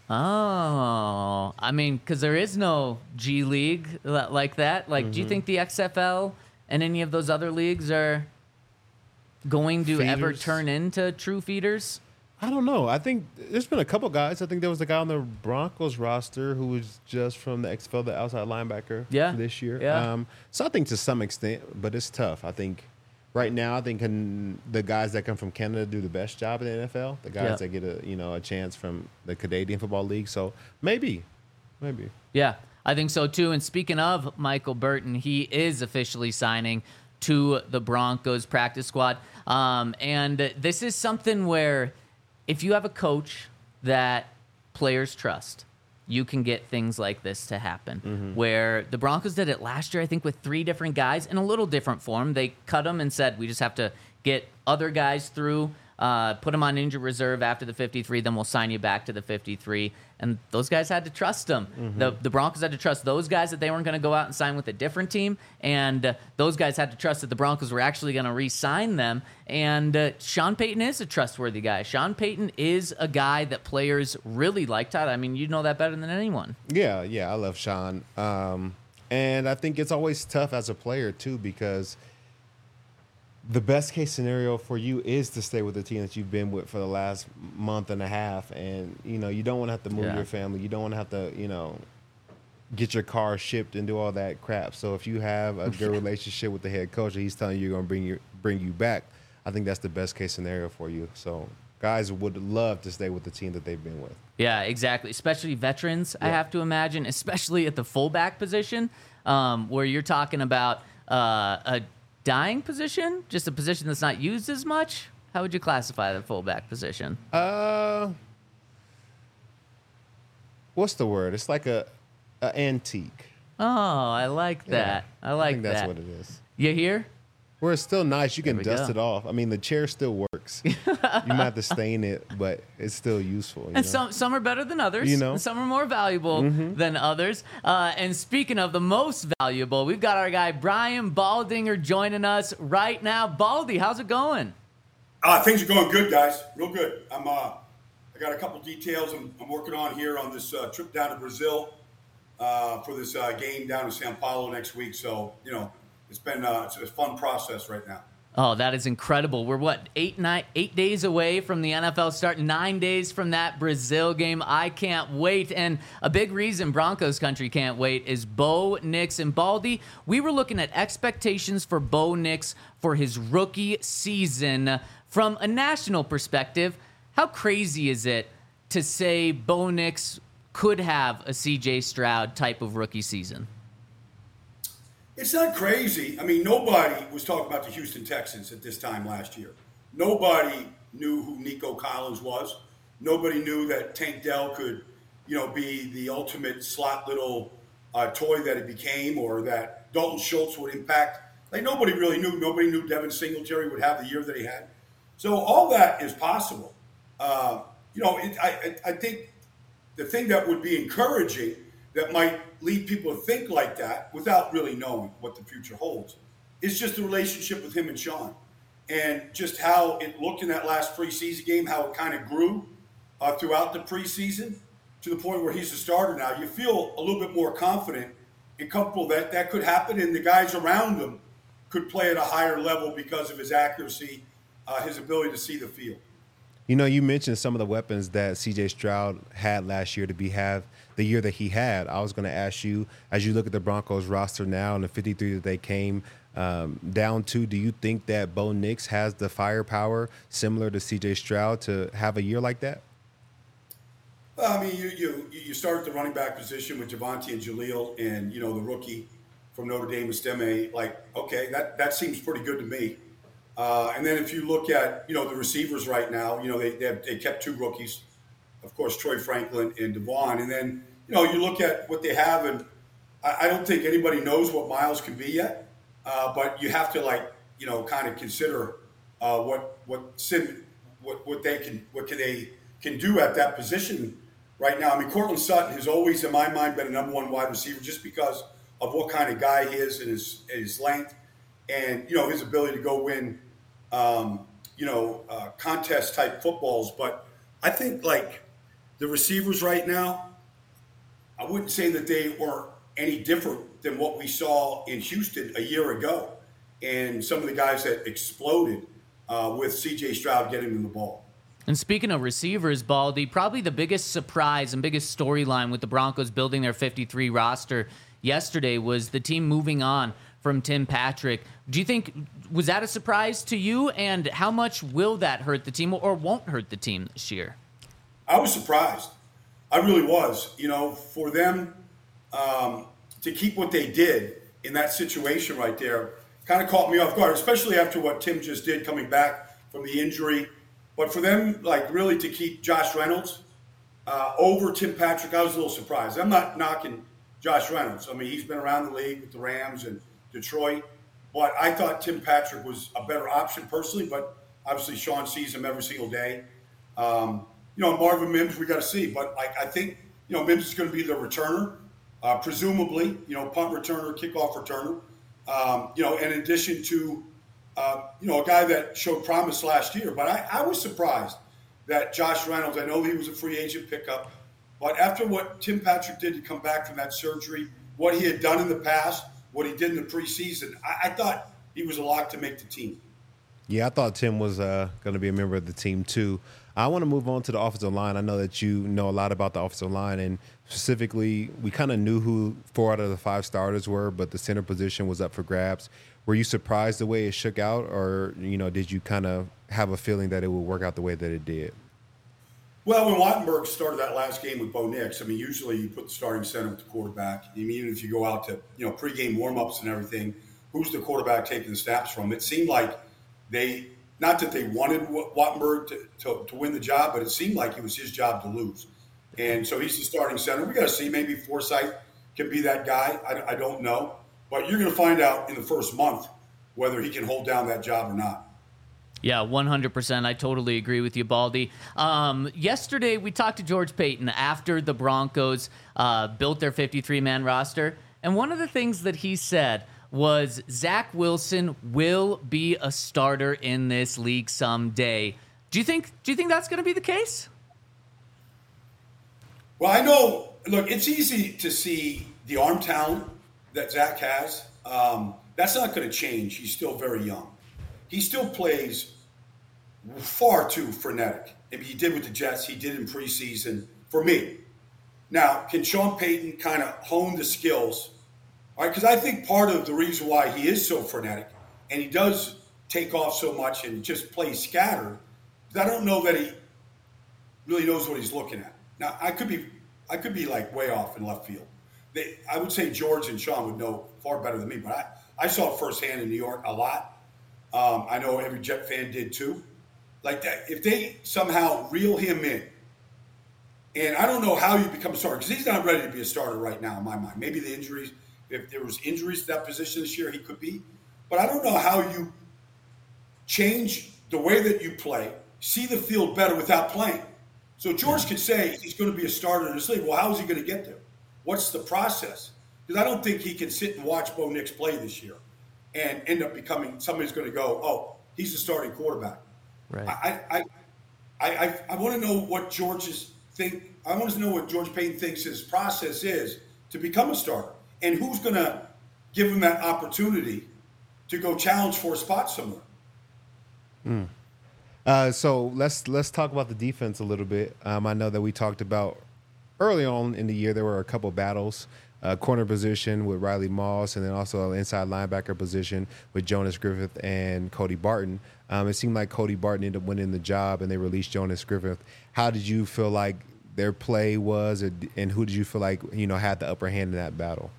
B: Oh, I mean, because there is no G League li- like that. Like,
C: Mm-hmm.
B: do you think the X F L and any of those other leagues are going to ever
C: Feeders?
B: turn into true feeders?
C: I don't know. I think there's been a couple guys. I think there was a guy on the Broncos roster who was just from the X F L, the outside linebacker
B: Yeah.
C: this year.
B: Yeah.
C: Um, so I think to some extent, but it's tough. I think right now, I think can, the guys that come from Canada do the best job in the N F L. The guys
B: Yeah.
C: that get a you know a chance from the Canadian Football League. So maybe, maybe.
B: Yeah, I think so too. And speaking of Michael Burton, he is officially signing to the Broncos practice squad. Um, and this is something where if you have a coach that players trust, you can get things like this to happen.
C: Mm-hmm.
B: Where the Broncos did it last year, I think, with three different guys in a little different form. They cut them and said, we just have to get other guys through, uh, put them on injured reserve after the fifty-three, then we'll sign you back to the fifty-three. And those guys had to trust them.
C: Mm-hmm.
B: The, the Broncos had to trust those guys that they weren't going to go out and sign with a different team. And uh, those guys had to trust that the Broncos were actually going to re-sign them. And uh, Sean Payton is a trustworthy guy. Sean Payton is a guy that players really like, Todd. I mean, you know that better than anyone.
C: Yeah, yeah, I love Sean. Um, and I think it's always tough as a player, too, because the best case scenario for you is to stay with the team that you've been with for the last month and a half. And, you know, you don't want to have to move
B: Yeah.
C: your family. You don't want to have to, you know, get your car shipped and do all that crap. So if you have a good relationship with the head coach and he's telling you you're going to bring you, bring you back, I think that's the best case scenario for you. So guys would love to stay with the team that they've been with.
B: Yeah, exactly. Especially veterans, I
C: Yeah.
B: have to imagine, especially at the fullback position, um, where you're talking about uh, a dying position, just a position that's not used as much. How would you classify the fullback position?
C: Uh, what's the word? It's like a, a antique.
B: Oh, I like that.
C: Yeah,
B: I like
C: think that's
B: that.
C: what it is.
B: You hear?
C: Where it's still nice, you can
B: we
C: dust
B: go.
C: it off. I mean, the chair still works. You might have to stain it, but it's still useful. You
B: And
C: know?
B: some some are better than others.
C: You know.
B: and some are more valuable than others. Uh, and speaking of the most valuable, we've got our guy Brian Baldinger joining us right now. Baldy, how's it going?
E: Uh, things are going good, guys. Real good. I'm. Uh, I got a couple details I'm, I'm working on here on this uh, trip down to Brazil uh, for this uh, game down in São Paulo next week. So you know, it's been uh, it's a fun process right now.
B: Oh, that is incredible. We're what, eight, nine, eight days away from the N F L start, nine days from that Brazil game. I can't wait. And a big reason Broncos country can't wait is Bo Nix and Baldy. We were looking at expectations for Bo Nix for his rookie season. From a national perspective, how crazy is it to say Bo Nix could have a C J Stroud type of rookie season?
E: It's not crazy. I mean, nobody was talking about the Houston Texans at this time last year. Nobody knew who Nico Collins was. Nobody knew that Tank Dell could, you know, be the ultimate slot little uh, toy that it became, or that Dalton Schultz would impact. Like, nobody really knew. Nobody knew Devin Singletary would have the year that he had. So all that is possible. Uh, you know, it, I, I think the thing that would be encouraging, that might lead people to think like that without really knowing what the future holds, is just the relationship with him and Sean, and just how it looked in that last preseason game, how it kind of grew uh, throughout the preseason to the point where he's a starter now. You feel a little bit more confident and comfortable that that could happen, and the guys around him could play at a higher level because of his accuracy, uh, his ability to see the field.
C: You know, you mentioned some of the weapons that C J Stroud had last year to be have the year that he had. I was going to ask you, as you look at the Broncos roster now and the fifty-three that they came um, down to, do you think that Bo Nix has the firepower similar to C J Stroud to have a year like that?
E: Well, I mean, you you you start at the running back position with Javonte and Jaleel, and you know the rookie from Notre Dame, Estime. Like, okay, that that seems pretty good to me. Uh, and then if you look at, you know, the receivers right now, you know, they they, have, they kept two rookies, of course, Troy Franklin and Devon. And then, you know, you look at what they have, and I, I don't think anybody knows what Miles can be yet. Uh, but you have to, like, you know, kind of consider uh, what what Sid, what what they can what can they can do at that position right now. I mean, Courtland Sutton has always, in my mind, been a number one wide receiver just because of what kind of guy he is and his his length, and you know his ability to go win. Um, you know, uh, contest type footballs. But I think, like, the receivers right now, I wouldn't say that they were any different than what we saw in Houston a year ago, and some of the guys that exploded uh, with C J Stroud getting them the ball.
B: And speaking of receivers, Baldy, probably the biggest surprise and biggest storyline with the Broncos building their fifty-three roster yesterday was the team moving on from Tim Patrick. Do you think, was that a surprise to you? And how much will that hurt the team or won't hurt the team this year?
E: I was surprised. I really was. You know, for them um, to keep what they did in that situation right there kind of caught me off guard, especially after what Tim just did coming back from the injury. But for them, like, really to keep Josh Reynolds uh, over Tim Patrick, I was a little surprised. I'm not knocking Josh Reynolds. I mean, he's been around the league with the Rams and Detroit. But I thought Tim Patrick was a better option personally, but obviously Sean sees him every single day. Um, you know, Marvin Mims, we got to see. But like, I think, you know, Mims is going to be the returner, uh, presumably, you know, punt returner, kickoff returner. Um, you know, in addition to, uh, you know, a guy that showed promise last year. But I, I was surprised that Josh Reynolds, I know he was a free agent pickup, but after what Tim Patrick did to come back from that surgery, what he had done in the past, what he did in the preseason, I, I thought he was a lock to make the team.
C: Yeah, I thought Tim was uh, going to be a member of the team too. I want to move on to the offensive line. I know that you know a lot about the offensive line, and specifically, we kind of knew who four out of the five starters were, but the center position was up for grabs. Were you surprised the way it shook out, or you know, did you kind of have a feeling that it would work out the way that it did?
E: Well, when Wattenberg started that last game with Bo Nix, I mean, usually you put the starting center with the quarterback. I mean, even if you go out to, you know, pregame warmups and everything, who's the quarterback taking the snaps from? It seemed like they, not that they wanted Wattenberg to, to, to win the job, but it seemed like it was his job to lose. And so he's the starting center. We got to see, maybe Forsythe can be that guy. I, I don't know. But you're going to find out in the first month whether he can hold down that job or not.
B: Yeah, one hundred percent. I totally agree with you, Baldy. Um, yesterday, we talked to George Paton after the Broncos uh, built their fifty-three man roster. And one of the things that he said was Zach Wilson will be a starter in this league someday. Do you think, do you think that's going to be the case?
E: Well, I know, look, it's easy to see the arm talent that Zach has. Um, that's not going to change. He's still very young. he still plays far too frenetic. I mean, he did with the Jets. He did in preseason for me. Now, can Sean Payton kind of hone the skills? All right, because I think part of the reason why he is so frenetic and he does take off so much and just plays scattered, I don't know that he really knows what he's looking at. Now, I could be, I could be like way off in left field. They, I would say George and Sean would know far better than me, but I, I saw it firsthand in New York a lot. Um, I know every Jet fan did too. Like that, if they somehow reel him in, and I don't know how you become a starter because he's not ready to be a starter right now in my mind. Maybe the injuries, if there was injuries to that position this year, he could be. But I don't know how you change the way that you play, see the field better without playing. So George could say he's going to be a starter in this league. Well, how is he going to get there? What's the process? Because I don't think he can sit and watch Bo Nix play this year and end up becoming somebody's going to go, oh, he's the starting quarterback.
B: Right.
E: I I I, I, I want to know what George's think. I want to know what George Payton thinks his process is to become a starter, and who's going to give him that opportunity to go challenge for a spot somewhere.
C: Mm. Uh, so let's let's talk about the defense a little bit. Um, I know that we talked about early on in the year there were a couple battles, uh, corner position with Riley Moss, and then also an inside linebacker position with Jonas Griffith and Cody Barton. Um, it seemed like Cody Barton ended up winning the job, and they released Jonas Griffith. How did you feel like their play was, or, and who did you feel like you know had the upper hand in that battle?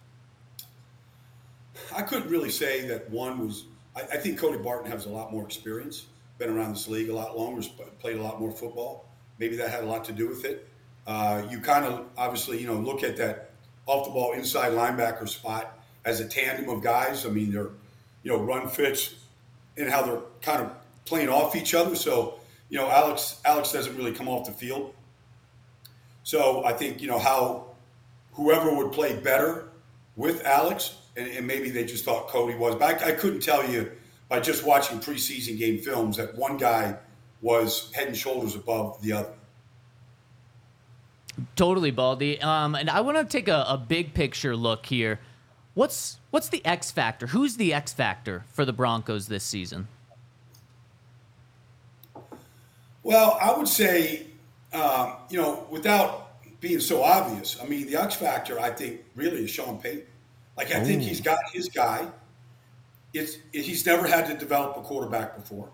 E: I couldn't really say that one was. I, I think Cody Barton has a lot more experience, been around this league a lot longer, played a lot more football. Maybe that had a lot to do with it. Uh, you kind of obviously, you know, look at that off the ball inside linebacker spot as a tandem of guys. I mean, they're, you know, run fits and how they're kind of playing off each other. So, you know, Alex Alex doesn't really come off the field. So I think, you know, how whoever would play better with Alex, and, and maybe they just thought Cody was. But I, I couldn't tell you by just watching preseason game films that one guy was head and shoulders above the other.
B: Totally, Baldy. Um, and I want to take a, a big picture look here. What's what's the X factor? Who's the X factor for the Broncos this season?
E: Well, I would say, um, you know, without being so obvious, I mean, the X factor, I think, really is Sean Payton. Like, I Ooh. think he's got his guy. It's he's never had to develop a quarterback before.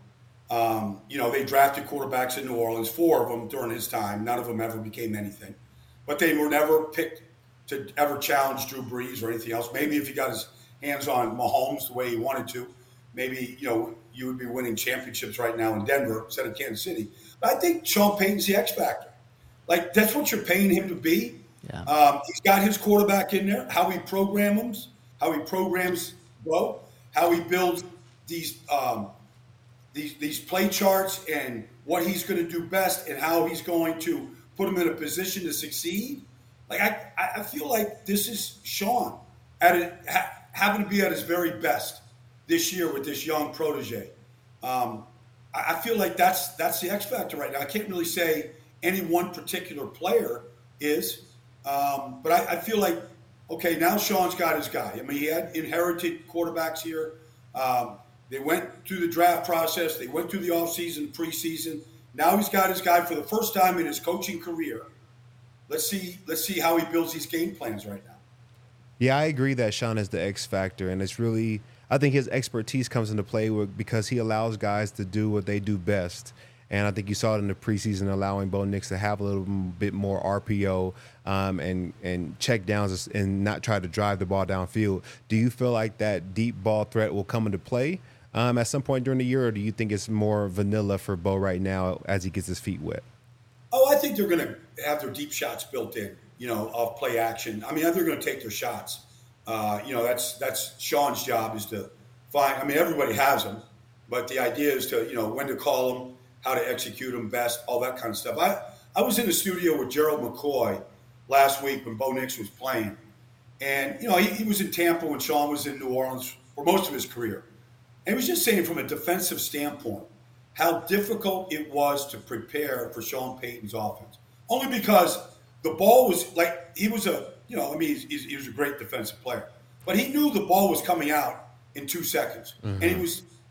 E: Um, you know, they drafted quarterbacks in New Orleans, four of them during his time. None of them ever became anything. But they were never picked to ever challenge Drew Brees or anything else. Maybe if he got his hands on Mahomes the way he wanted to, maybe, you know, you would be winning championships right now in Denver instead of Kansas City. But I think Sean Payton's the X factor. Like, that's what you're paying him to be.
B: Yeah.
E: Um, he's got his quarterback in there, how he programs, how he programs Bo, how he builds these um, these these play charts and what he's going to do best and how he's going to put him in a position to succeed. Like, I, I feel like this is Sean at a, ha, having to be at his very best this year with this young protege. Um, I, I feel like that's that's the X factor right now. I can't really say any one particular player is, um, but I, I feel like, okay, now Sean's got his guy. I mean, he had inherited quarterbacks here. Um, they went through the draft process. They went through the offseason, preseason. Now he's got his guy for the first time in his coaching career. Let's see. Let's see how he builds these game plans right now.
C: Yeah, I agree that Sean is the X factor, and it's really, I think his expertise comes into play with, because he allows guys to do what they do best. And I think you saw it in the preseason, allowing Bo Nix to have a little bit more R P O um, and and check downs and not try to drive the ball downfield. Do you feel like that deep ball threat will come into play um, at some point during the year, or do you think it's more vanilla for Bo right now as he gets his feet wet?
E: Oh, I think they're going to have their deep shots built in, you know, of play action. I mean, they're going to take their shots. Uh, you know, that's that's Sean's job is to find. I mean, everybody has them, but the idea is to, you know, when to call them, how to execute them best, all that kind of stuff. I, I was in the studio with Gerald McCoy last week when Bo Nix was playing. And, you know, he, he was in Tampa when Sean was in New Orleans for most of his career. And he was just saying from a defensive standpoint how difficult it was to prepare for Sean Payton's offense. Only because the ball was like, he was a, you know, I mean, he's, he's, he was a great defensive player. But he knew the ball was coming out in two seconds. Mm-hmm. And he was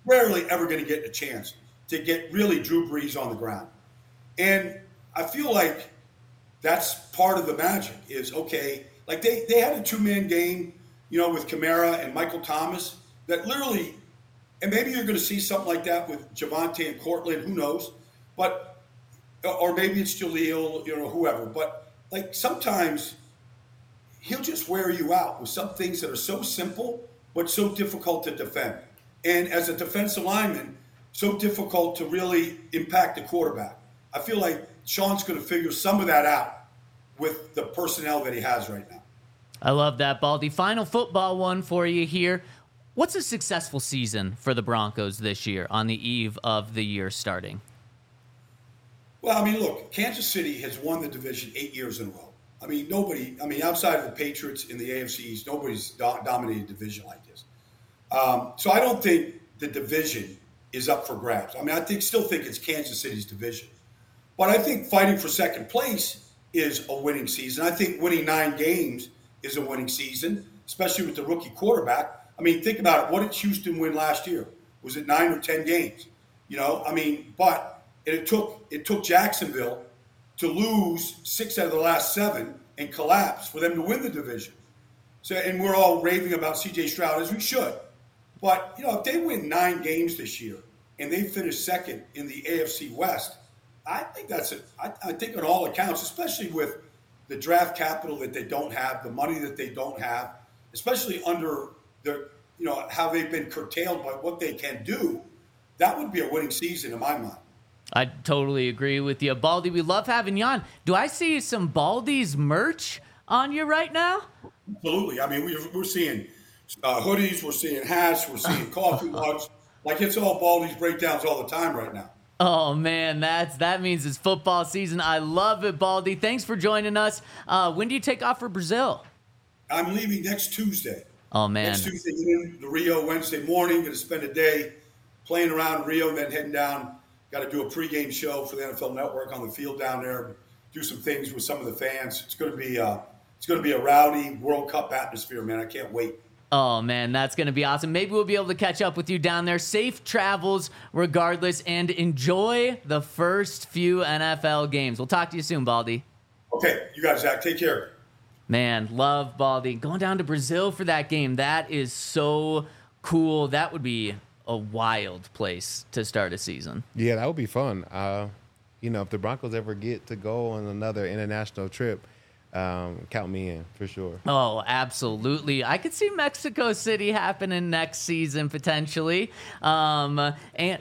E: rarely ever going to get a chance to get really Drew Brees on the ground. And I feel like that's part of the magic is, okay, like they, they had a two-man game, you know, with Kamara and Michael Thomas that literally, and maybe you're going to see something like that with Javonte and Cortland, who knows, but, or maybe it's Jaleel, you know, whoever, but like sometimes he'll just wear you out with some things that are so simple, but so difficult to defend. And as a defensive lineman, so difficult to really impact the quarterback. I feel like Sean's going to figure some of that out with the personnel that he has right now.
B: I love that, Baldy. Final football one for you here. What's a successful season for the Broncos this year on the eve of the year starting?
E: Well, I mean, look, Kansas City has won the division eight years in a row. I mean, nobody, I mean, outside of the Patriots in the A F C East, nobody's do- dominated a division like this. Um, so I don't think the division is up for grabs. I mean, I think still think it's Kansas City's division. But I think fighting for second place is a winning season. I think winning nine games is a winning season, especially with the rookie quarterback. I mean, think about it. What did Houston win last year? Was it nine or ten games? You know, I mean, but it took it took Jacksonville to lose six out of the last seven and collapse for them to win the division. So, and we're all raving about C J Stroud, as we should. But, you know, if they win nine games this year and they finish second in the A F C West, I think that's it. I, I think on all accounts, especially with the draft capital that they don't have, the money that they don't have, especially under the, you know, how they've been curtailed by what they can do, that would be a winning season in my mind.
B: I totally agree with you. Baldy, we love having you on. Do I see some Baldy's merch on you right now?
E: Absolutely. I mean, we're, we're seeing uh, hoodies, we're seeing hats, we're seeing coffee mugs. Like, it's all Baldy's breakdowns all the time right now.
B: Oh, man, that's that means it's football season. I love it, Baldy. Thanks for joining us. Uh, when do you take off for Brazil?
E: I'm leaving next Tuesday.
B: Oh, man.
E: Next Tuesday in to Rio Wednesday morning. Going to spend a day playing around Rio, then heading down. Got to do a pregame show for the N F L Network on the field down there. Do some things with some of the fans. It's going to be uh, it's going to be a rowdy World Cup atmosphere, man. I can't wait.
B: Oh, man, that's going to be awesome. Maybe we'll be able to catch up with you down there. Safe travels regardless, and enjoy the first few N F L games. We'll talk to you soon, Baldy.
E: Okay, you guys, Zach. Take care.
B: Man, love Baldy. Going down to Brazil for that game, that is so cool. That would be a wild place to start a season.
C: Yeah, that would be fun. Uh, you know, if the Broncos ever get to go on another international trip, um, count me in for sure.
B: Oh, absolutely. I could see Mexico City happening next season potentially. Um, and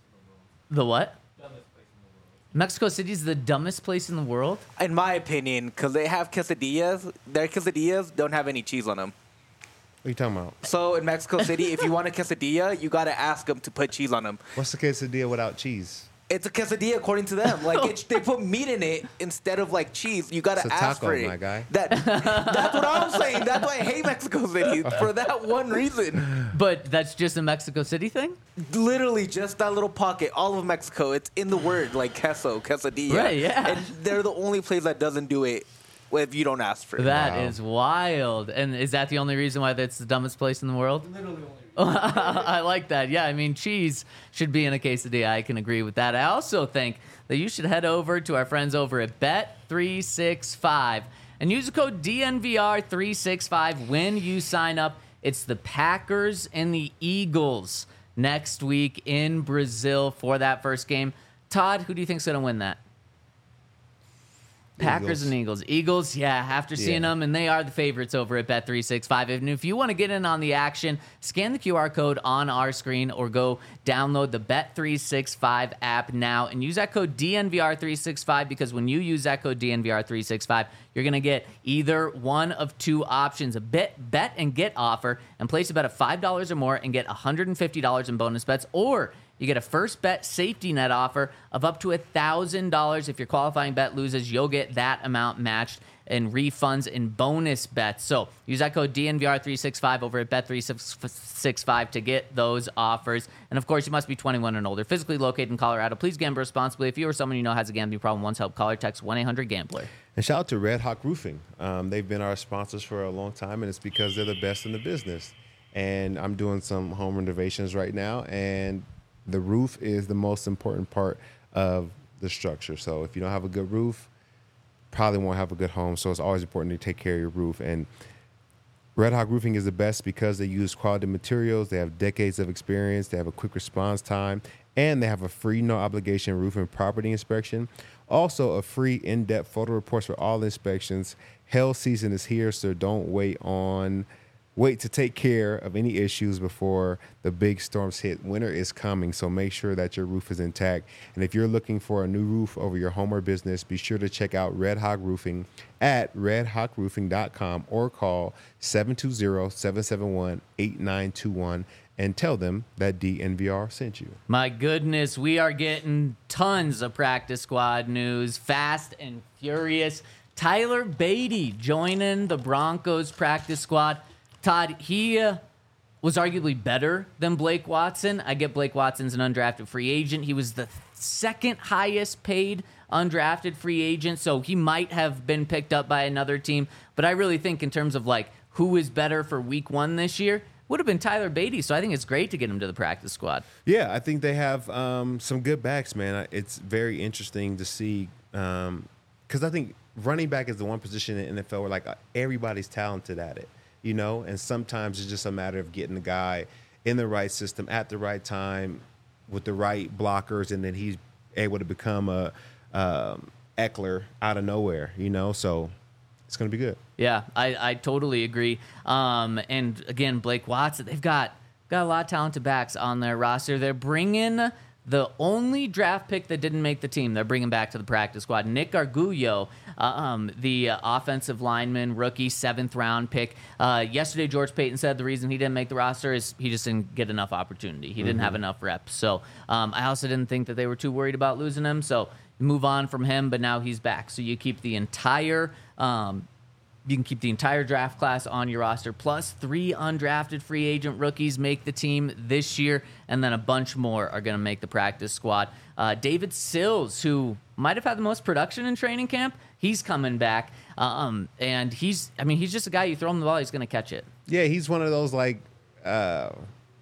B: the what? Mexico City is the dumbest place in the world?
D: In my opinion, because they have quesadillas. Their quesadillas don't have any cheese on them.
C: What are you talking about?
D: So in Mexico City, if you want a quesadilla, you got to ask them to put cheese on them.
C: What's the quesadilla without cheese?
D: It's a quesadilla according to them. Like it, they put meat in it instead of like cheese. You got to
C: It's a
D: ask
C: taco,
D: for it.
C: my guy.
D: That, that's what I'm saying. That's why I hate Mexico City for that one reason.
B: But that's just a Mexico City thing?
D: Literally just that little pocket, all of Mexico. It's in the word like queso, quesadilla.
B: Right, yeah.
D: And they're the only place that doesn't do it if you don't ask for it.
B: That
C: Wow.
B: is wild. And is that the only reason why that's the dumbest place in the world? Literally only reason. I like that. Yeah, I mean, cheese should be in a quesadilla. I can agree with that. I also think that you should head over to our friends over at Bet three sixty-five and use the code D N V R three sixty-five when you sign up. It's the Packers and the Eagles next week in Brazil for that first game. Todd, who do you think's going to win that? Packers
C: Eagles.
B: and Eagles. Eagles, yeah, after seeing
C: Yeah.
B: them, and they are the favorites over at Bet three sixty-five. And if you want to get in on the action, scan the Q R code on our screen or go download the Bet three sixty-five app now and use that code D N V R three sixty-five because when you use that code D N V R three sixty-five, you're going to get either one of two options, a bet, bet and get offer, and place a bet of five dollars or more and get one hundred fifty dollars in bonus bets, or you get a first bet safety net offer of up to one thousand dollars. If your qualifying bet loses, you'll get that amount matched in refunds and bonus bets. So use that code D N V R three sixty-five over at Bet three sixty-five to get those offers. And of course, you must be twenty-one and older, physically located in Colorado. Please gamble responsibly. If you or someone you know has a gambling problem, once help, call or text one eight hundred gambler.
C: And shout out to Red Hawk Roofing. Um, they've been our sponsors for a long time, and it's because they're the best in the business. and I'm doing some home renovations right now, and the roof is the most important part of the structure. So if you don't have a good roof, probably won't have a good home. So it's always important to take care of your roof. And Red Hawk Roofing is the best because they use quality materials. They have decades of experience. They have a quick response time, and they have a free, no obligation roof and property inspection. Also, a free in-depth photo reports for all inspections. Hail season is here, so don't wait on wait to take care of any issues before the big storms hit. Winter is coming, so make sure that your roof is intact. And if you're looking for a new roof over your home or business, be sure to check out Red Hawk Roofing at red hawk roofing dot com or call seven two zero, seven seven one, eight nine two one and tell them that D N V R sent you.
B: My goodness, we are getting tons of practice squad news, fast and furious. Tyler Beatty joining the Broncos practice squad. Todd, he uh, was arguably better than Blake Watson. I get Blake Watson's an undrafted free agent. He was the second highest paid undrafted free agent, so he might have been picked up by another team. But I really think in terms of like who is better for week one this year, would have been Tyler Beatty. So I think it's great to get him to the practice squad.
C: Yeah, I think they have um, some good backs, man. It's very interesting to see because um, I think running back is the one position in the N F L where like everybody's talented at it. You know, and sometimes it's just a matter of getting the guy in the right system at the right time with the right blockers, and then he's able to become a um, Eckler out of nowhere, you know, so it's going to be good.
B: Yeah, I, I totally agree. Um, and again, Blake Watson, they've got, got a lot of talented backs on their roster. They're bringing the only draft pick that didn't make the team, they're bringing back to the practice squad. Nick Arguello, uh, um, the uh, offensive lineman, rookie, seventh round pick. Uh, yesterday, George Payton said the reason he didn't make the roster is he just didn't get enough opportunity. He mm-hmm. didn't have enough reps. So um, I also didn't think that they were too worried about losing him. So move on from him, but now he's back. So you keep the entire um, you can keep the entire draft class on your roster, plus three undrafted free agent rookies make the team this year, and then a bunch more are going to make the practice squad. Uh, David Sills, who might have had the most production in training camp, he's coming back. Um, and he's, I mean, he's just a guy, you throw him the ball, he's going to catch it.
C: Yeah, he's one of those, like, uh,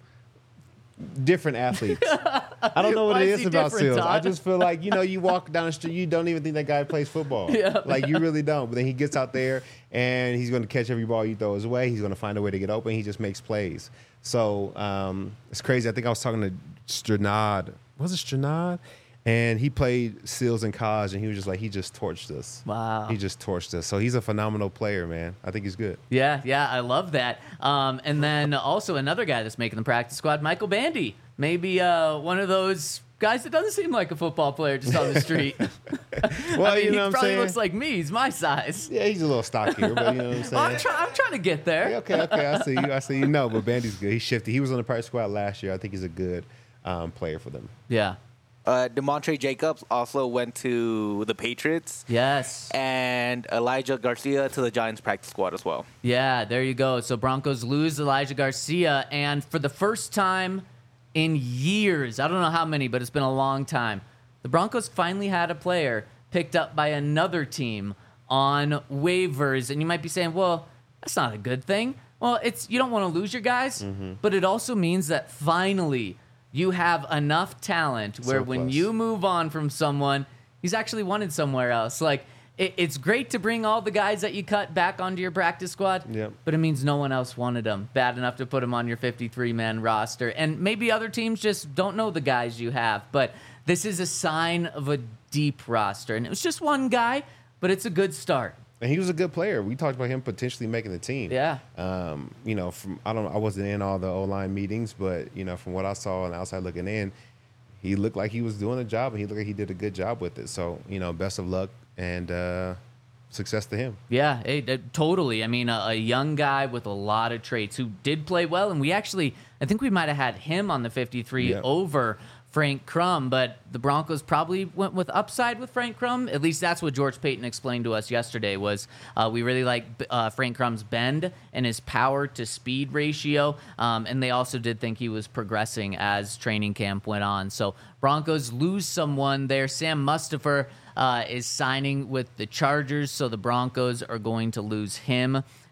C: different athletes. I don't know what
B: Why
C: it
B: is
C: is
B: he
C: about
B: different,
C: Sills. I
B: Todd?
C: just feel like, you know, you walk down the street, you don't even think that guy plays football.
B: Yeah.
C: Like, you really don't. But then he gets out there, and he's going to catch every ball you throw his way. He's going to find a way to get open. He just makes plays. So um, it's crazy. I think I was talking to Stranad. Was it Stranad? And he played Sills in college, and he was just like, he just torched us.
B: Wow.
C: He just torched us. So he's a phenomenal player, man. I think he's good.
B: Yeah, yeah, I love that. Um, and then also another guy that's making the practice squad, Michael Bandy. Maybe uh, one of those guys that doesn't seem like a football player just on the street.
C: Well,
B: I mean,
C: you know
B: he
C: what I'm
B: probably
C: saying?
B: looks like me. He's my size.
C: Yeah, he's a little stockier, but you know what I'm saying?
B: Well, I'm, try- I'm trying to get there.
C: Yeah, okay, okay, I see you. I see you. No, but Bandy's good. He's shifty. He was on the practice squad last year. I think he's a good um, player for them.
B: Yeah.
D: Uh, DeMontre Jacobs also went to the Patriots.
B: Yes.
D: And Elijah Garcia to the Giants practice squad as well.
B: Yeah, there you go. So Broncos lose Elijah Garcia, and for the first time in years, I don't know how many, but it's been a long time, the Broncos finally had a player picked up by another team on waivers. And you might be saying, well, that's not a good thing. Well, it's you don't want to lose your guys, mm-hmm. but it also means that finally you have enough talent where
C: Surplus.
B: when you move on from someone, he's actually wanted somewhere else. Like, it, it's great to bring all the guys that you cut back onto your practice squad,
C: Yep.
B: but it means no one else wanted them bad enough to put them on your fifty-three man roster. And maybe other teams just don't know the guys you have, but this is a sign of a deep roster. And it was just one guy, but it's a good start.
C: And he was a good player. We talked about him potentially making the team.
B: Yeah.
C: Um, you know, from I don't I wasn't in all the O-line meetings, but you know, from what I saw on the outside looking in, he looked like he was doing a job, and he looked like he did a good job with it. So, you know, best of luck and uh, success to him.
B: Yeah, it, it- totally. I mean, a, a young guy with a lot of traits who did play well, and we actually, I think we might have had him on the fifty-three
C: Yeah.
B: over Frank Crum, but the Broncos probably went with upside with Frank Crum. At least that's what George Payton explained to us yesterday was uh, we really like uh, Frank Crum's bend and his power to speed ratio, um, and they also did think he was progressing as training camp went on. So Broncos lose someone there. Sam Mustipher uh, is signing with the Chargers, so the Broncos are going to lose him.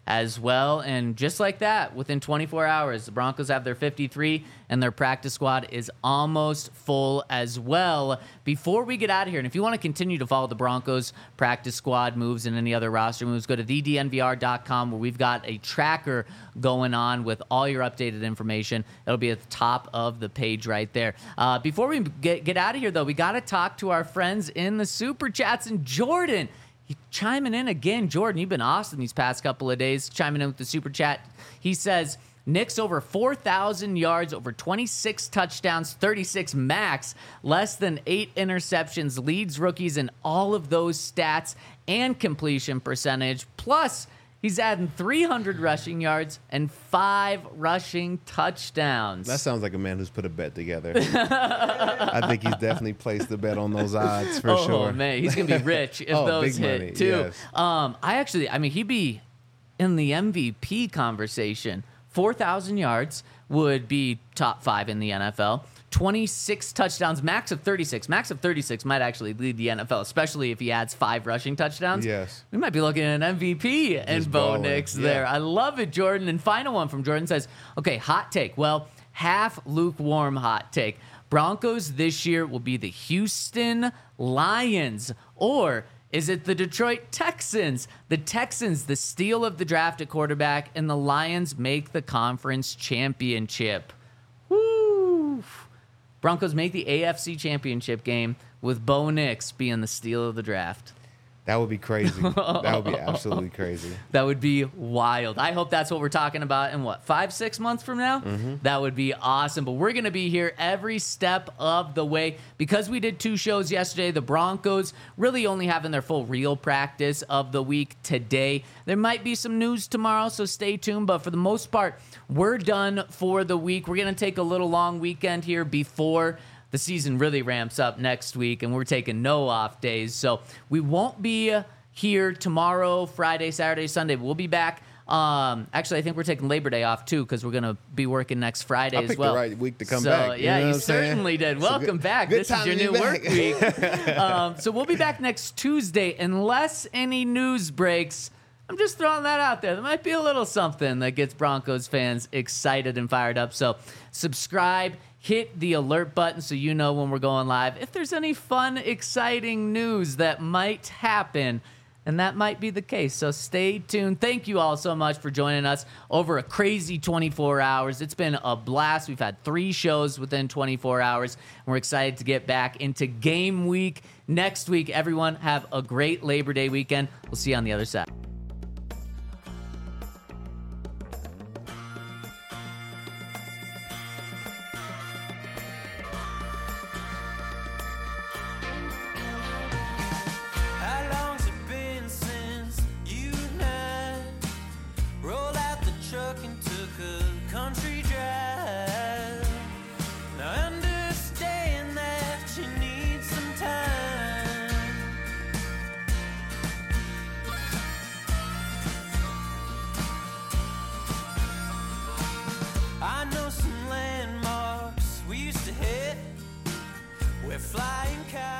B: as well. And just like that, within twenty-four hours, the Broncos have their fifty-three, and their practice squad is almost full as well. Before we get out of here, and if you want to continue to follow the Broncos practice squad moves and any other roster moves, go to the d n v r dot com, where we've got a tracker going on with all your updated information. It'll be at the top of the page right there. Uh, before we get, get out of here, though, we got to talk to our friends in the Super Chats. And Jordan, he chiming in again. Jordan, you've been awesome these past couple of days, chiming in with the Super Chat. He says, Knicks over four thousand yards, over twenty-six touchdowns, thirty-six max, less than eight interceptions, leads rookies in all of those stats and completion percentage. Plus, he's adding three hundred rushing yards and five rushing touchdowns.
C: That sounds like a man who's put a bet together. I think he's definitely placed the bet on those odds for
B: oh,
C: sure.
B: Oh, man, he's going to be rich if
C: Oh,
B: those
C: big
B: hit,
C: money,
B: too.
C: yes.
B: Um, I actually, I mean, he'd be in the M V P conversation. four thousand yards would be top five in the N F L. twenty-six touchdowns, max of thirty-six. Max of thirty-six might actually lead the N F L, especially if he adds five rushing touchdowns.
C: Yes.
B: We might be looking at an M V P and
C: Just
B: Bo
C: balling.
B: Nix
C: Yeah.
B: there. I love it, Jordan. And final one from Jordan says, okay, hot take. Well, half lukewarm hot take. Broncos this year will be the Houston Lions, or is it the Detroit Texans? The Texans, the steal of the draft at quarterback, and the Lions make the conference championship. Woo! Broncos make the A F C championship game with Bo Nix being the steal of the draft.
C: That would be crazy. That would be absolutely crazy.
B: That would be wild. I hope that's what we're talking about in, what, five, six months from now? Mm-hmm. That would be awesome. But we're going to be here every step of the way. Because we did two shows yesterday, the Broncos really only having their full real practice of the week today. There might be some news tomorrow, so stay tuned. But for the most part, we're done for the week. We're going to take a little long weekend here before the season really ramps up next week, and we're taking no off days. So we won't be here tomorrow, Friday, Saturday, Sunday. We'll be back. Um, actually, I think we're taking Labor Day off, too, because we're going to be working next Friday
C: I
B: as
C: picked
B: well.
C: the right week to come
B: so,
C: back. You
B: yeah,
C: know
B: you
C: what I'm saying?
B: certainly did.
C: It's a
B: Welcome
C: good-
B: back.
C: good
B: This is
C: time
B: your
C: to be
B: new work
C: back.
B: week. um, so we'll be back next Tuesday, unless any news breaks. I'm just throwing that out there. There might be a little something that gets Broncos fans excited and fired up. So subscribe, hit the alert button so you know when we're going live. If there's any fun, exciting news that might happen, and that might be the case. So stay tuned. Thank you all so much for joining us over a crazy twenty-four hours. It's been a blast. We've had three shows within twenty-four hours. And we're excited to get back into game week next week. Everyone have a great Labor Day weekend. We'll see you on the other side.
A: How long's it been since you and I rolled out the truck and took a country drive? Now I understand that you need some time. I know some landmarks we used to hit where flying cars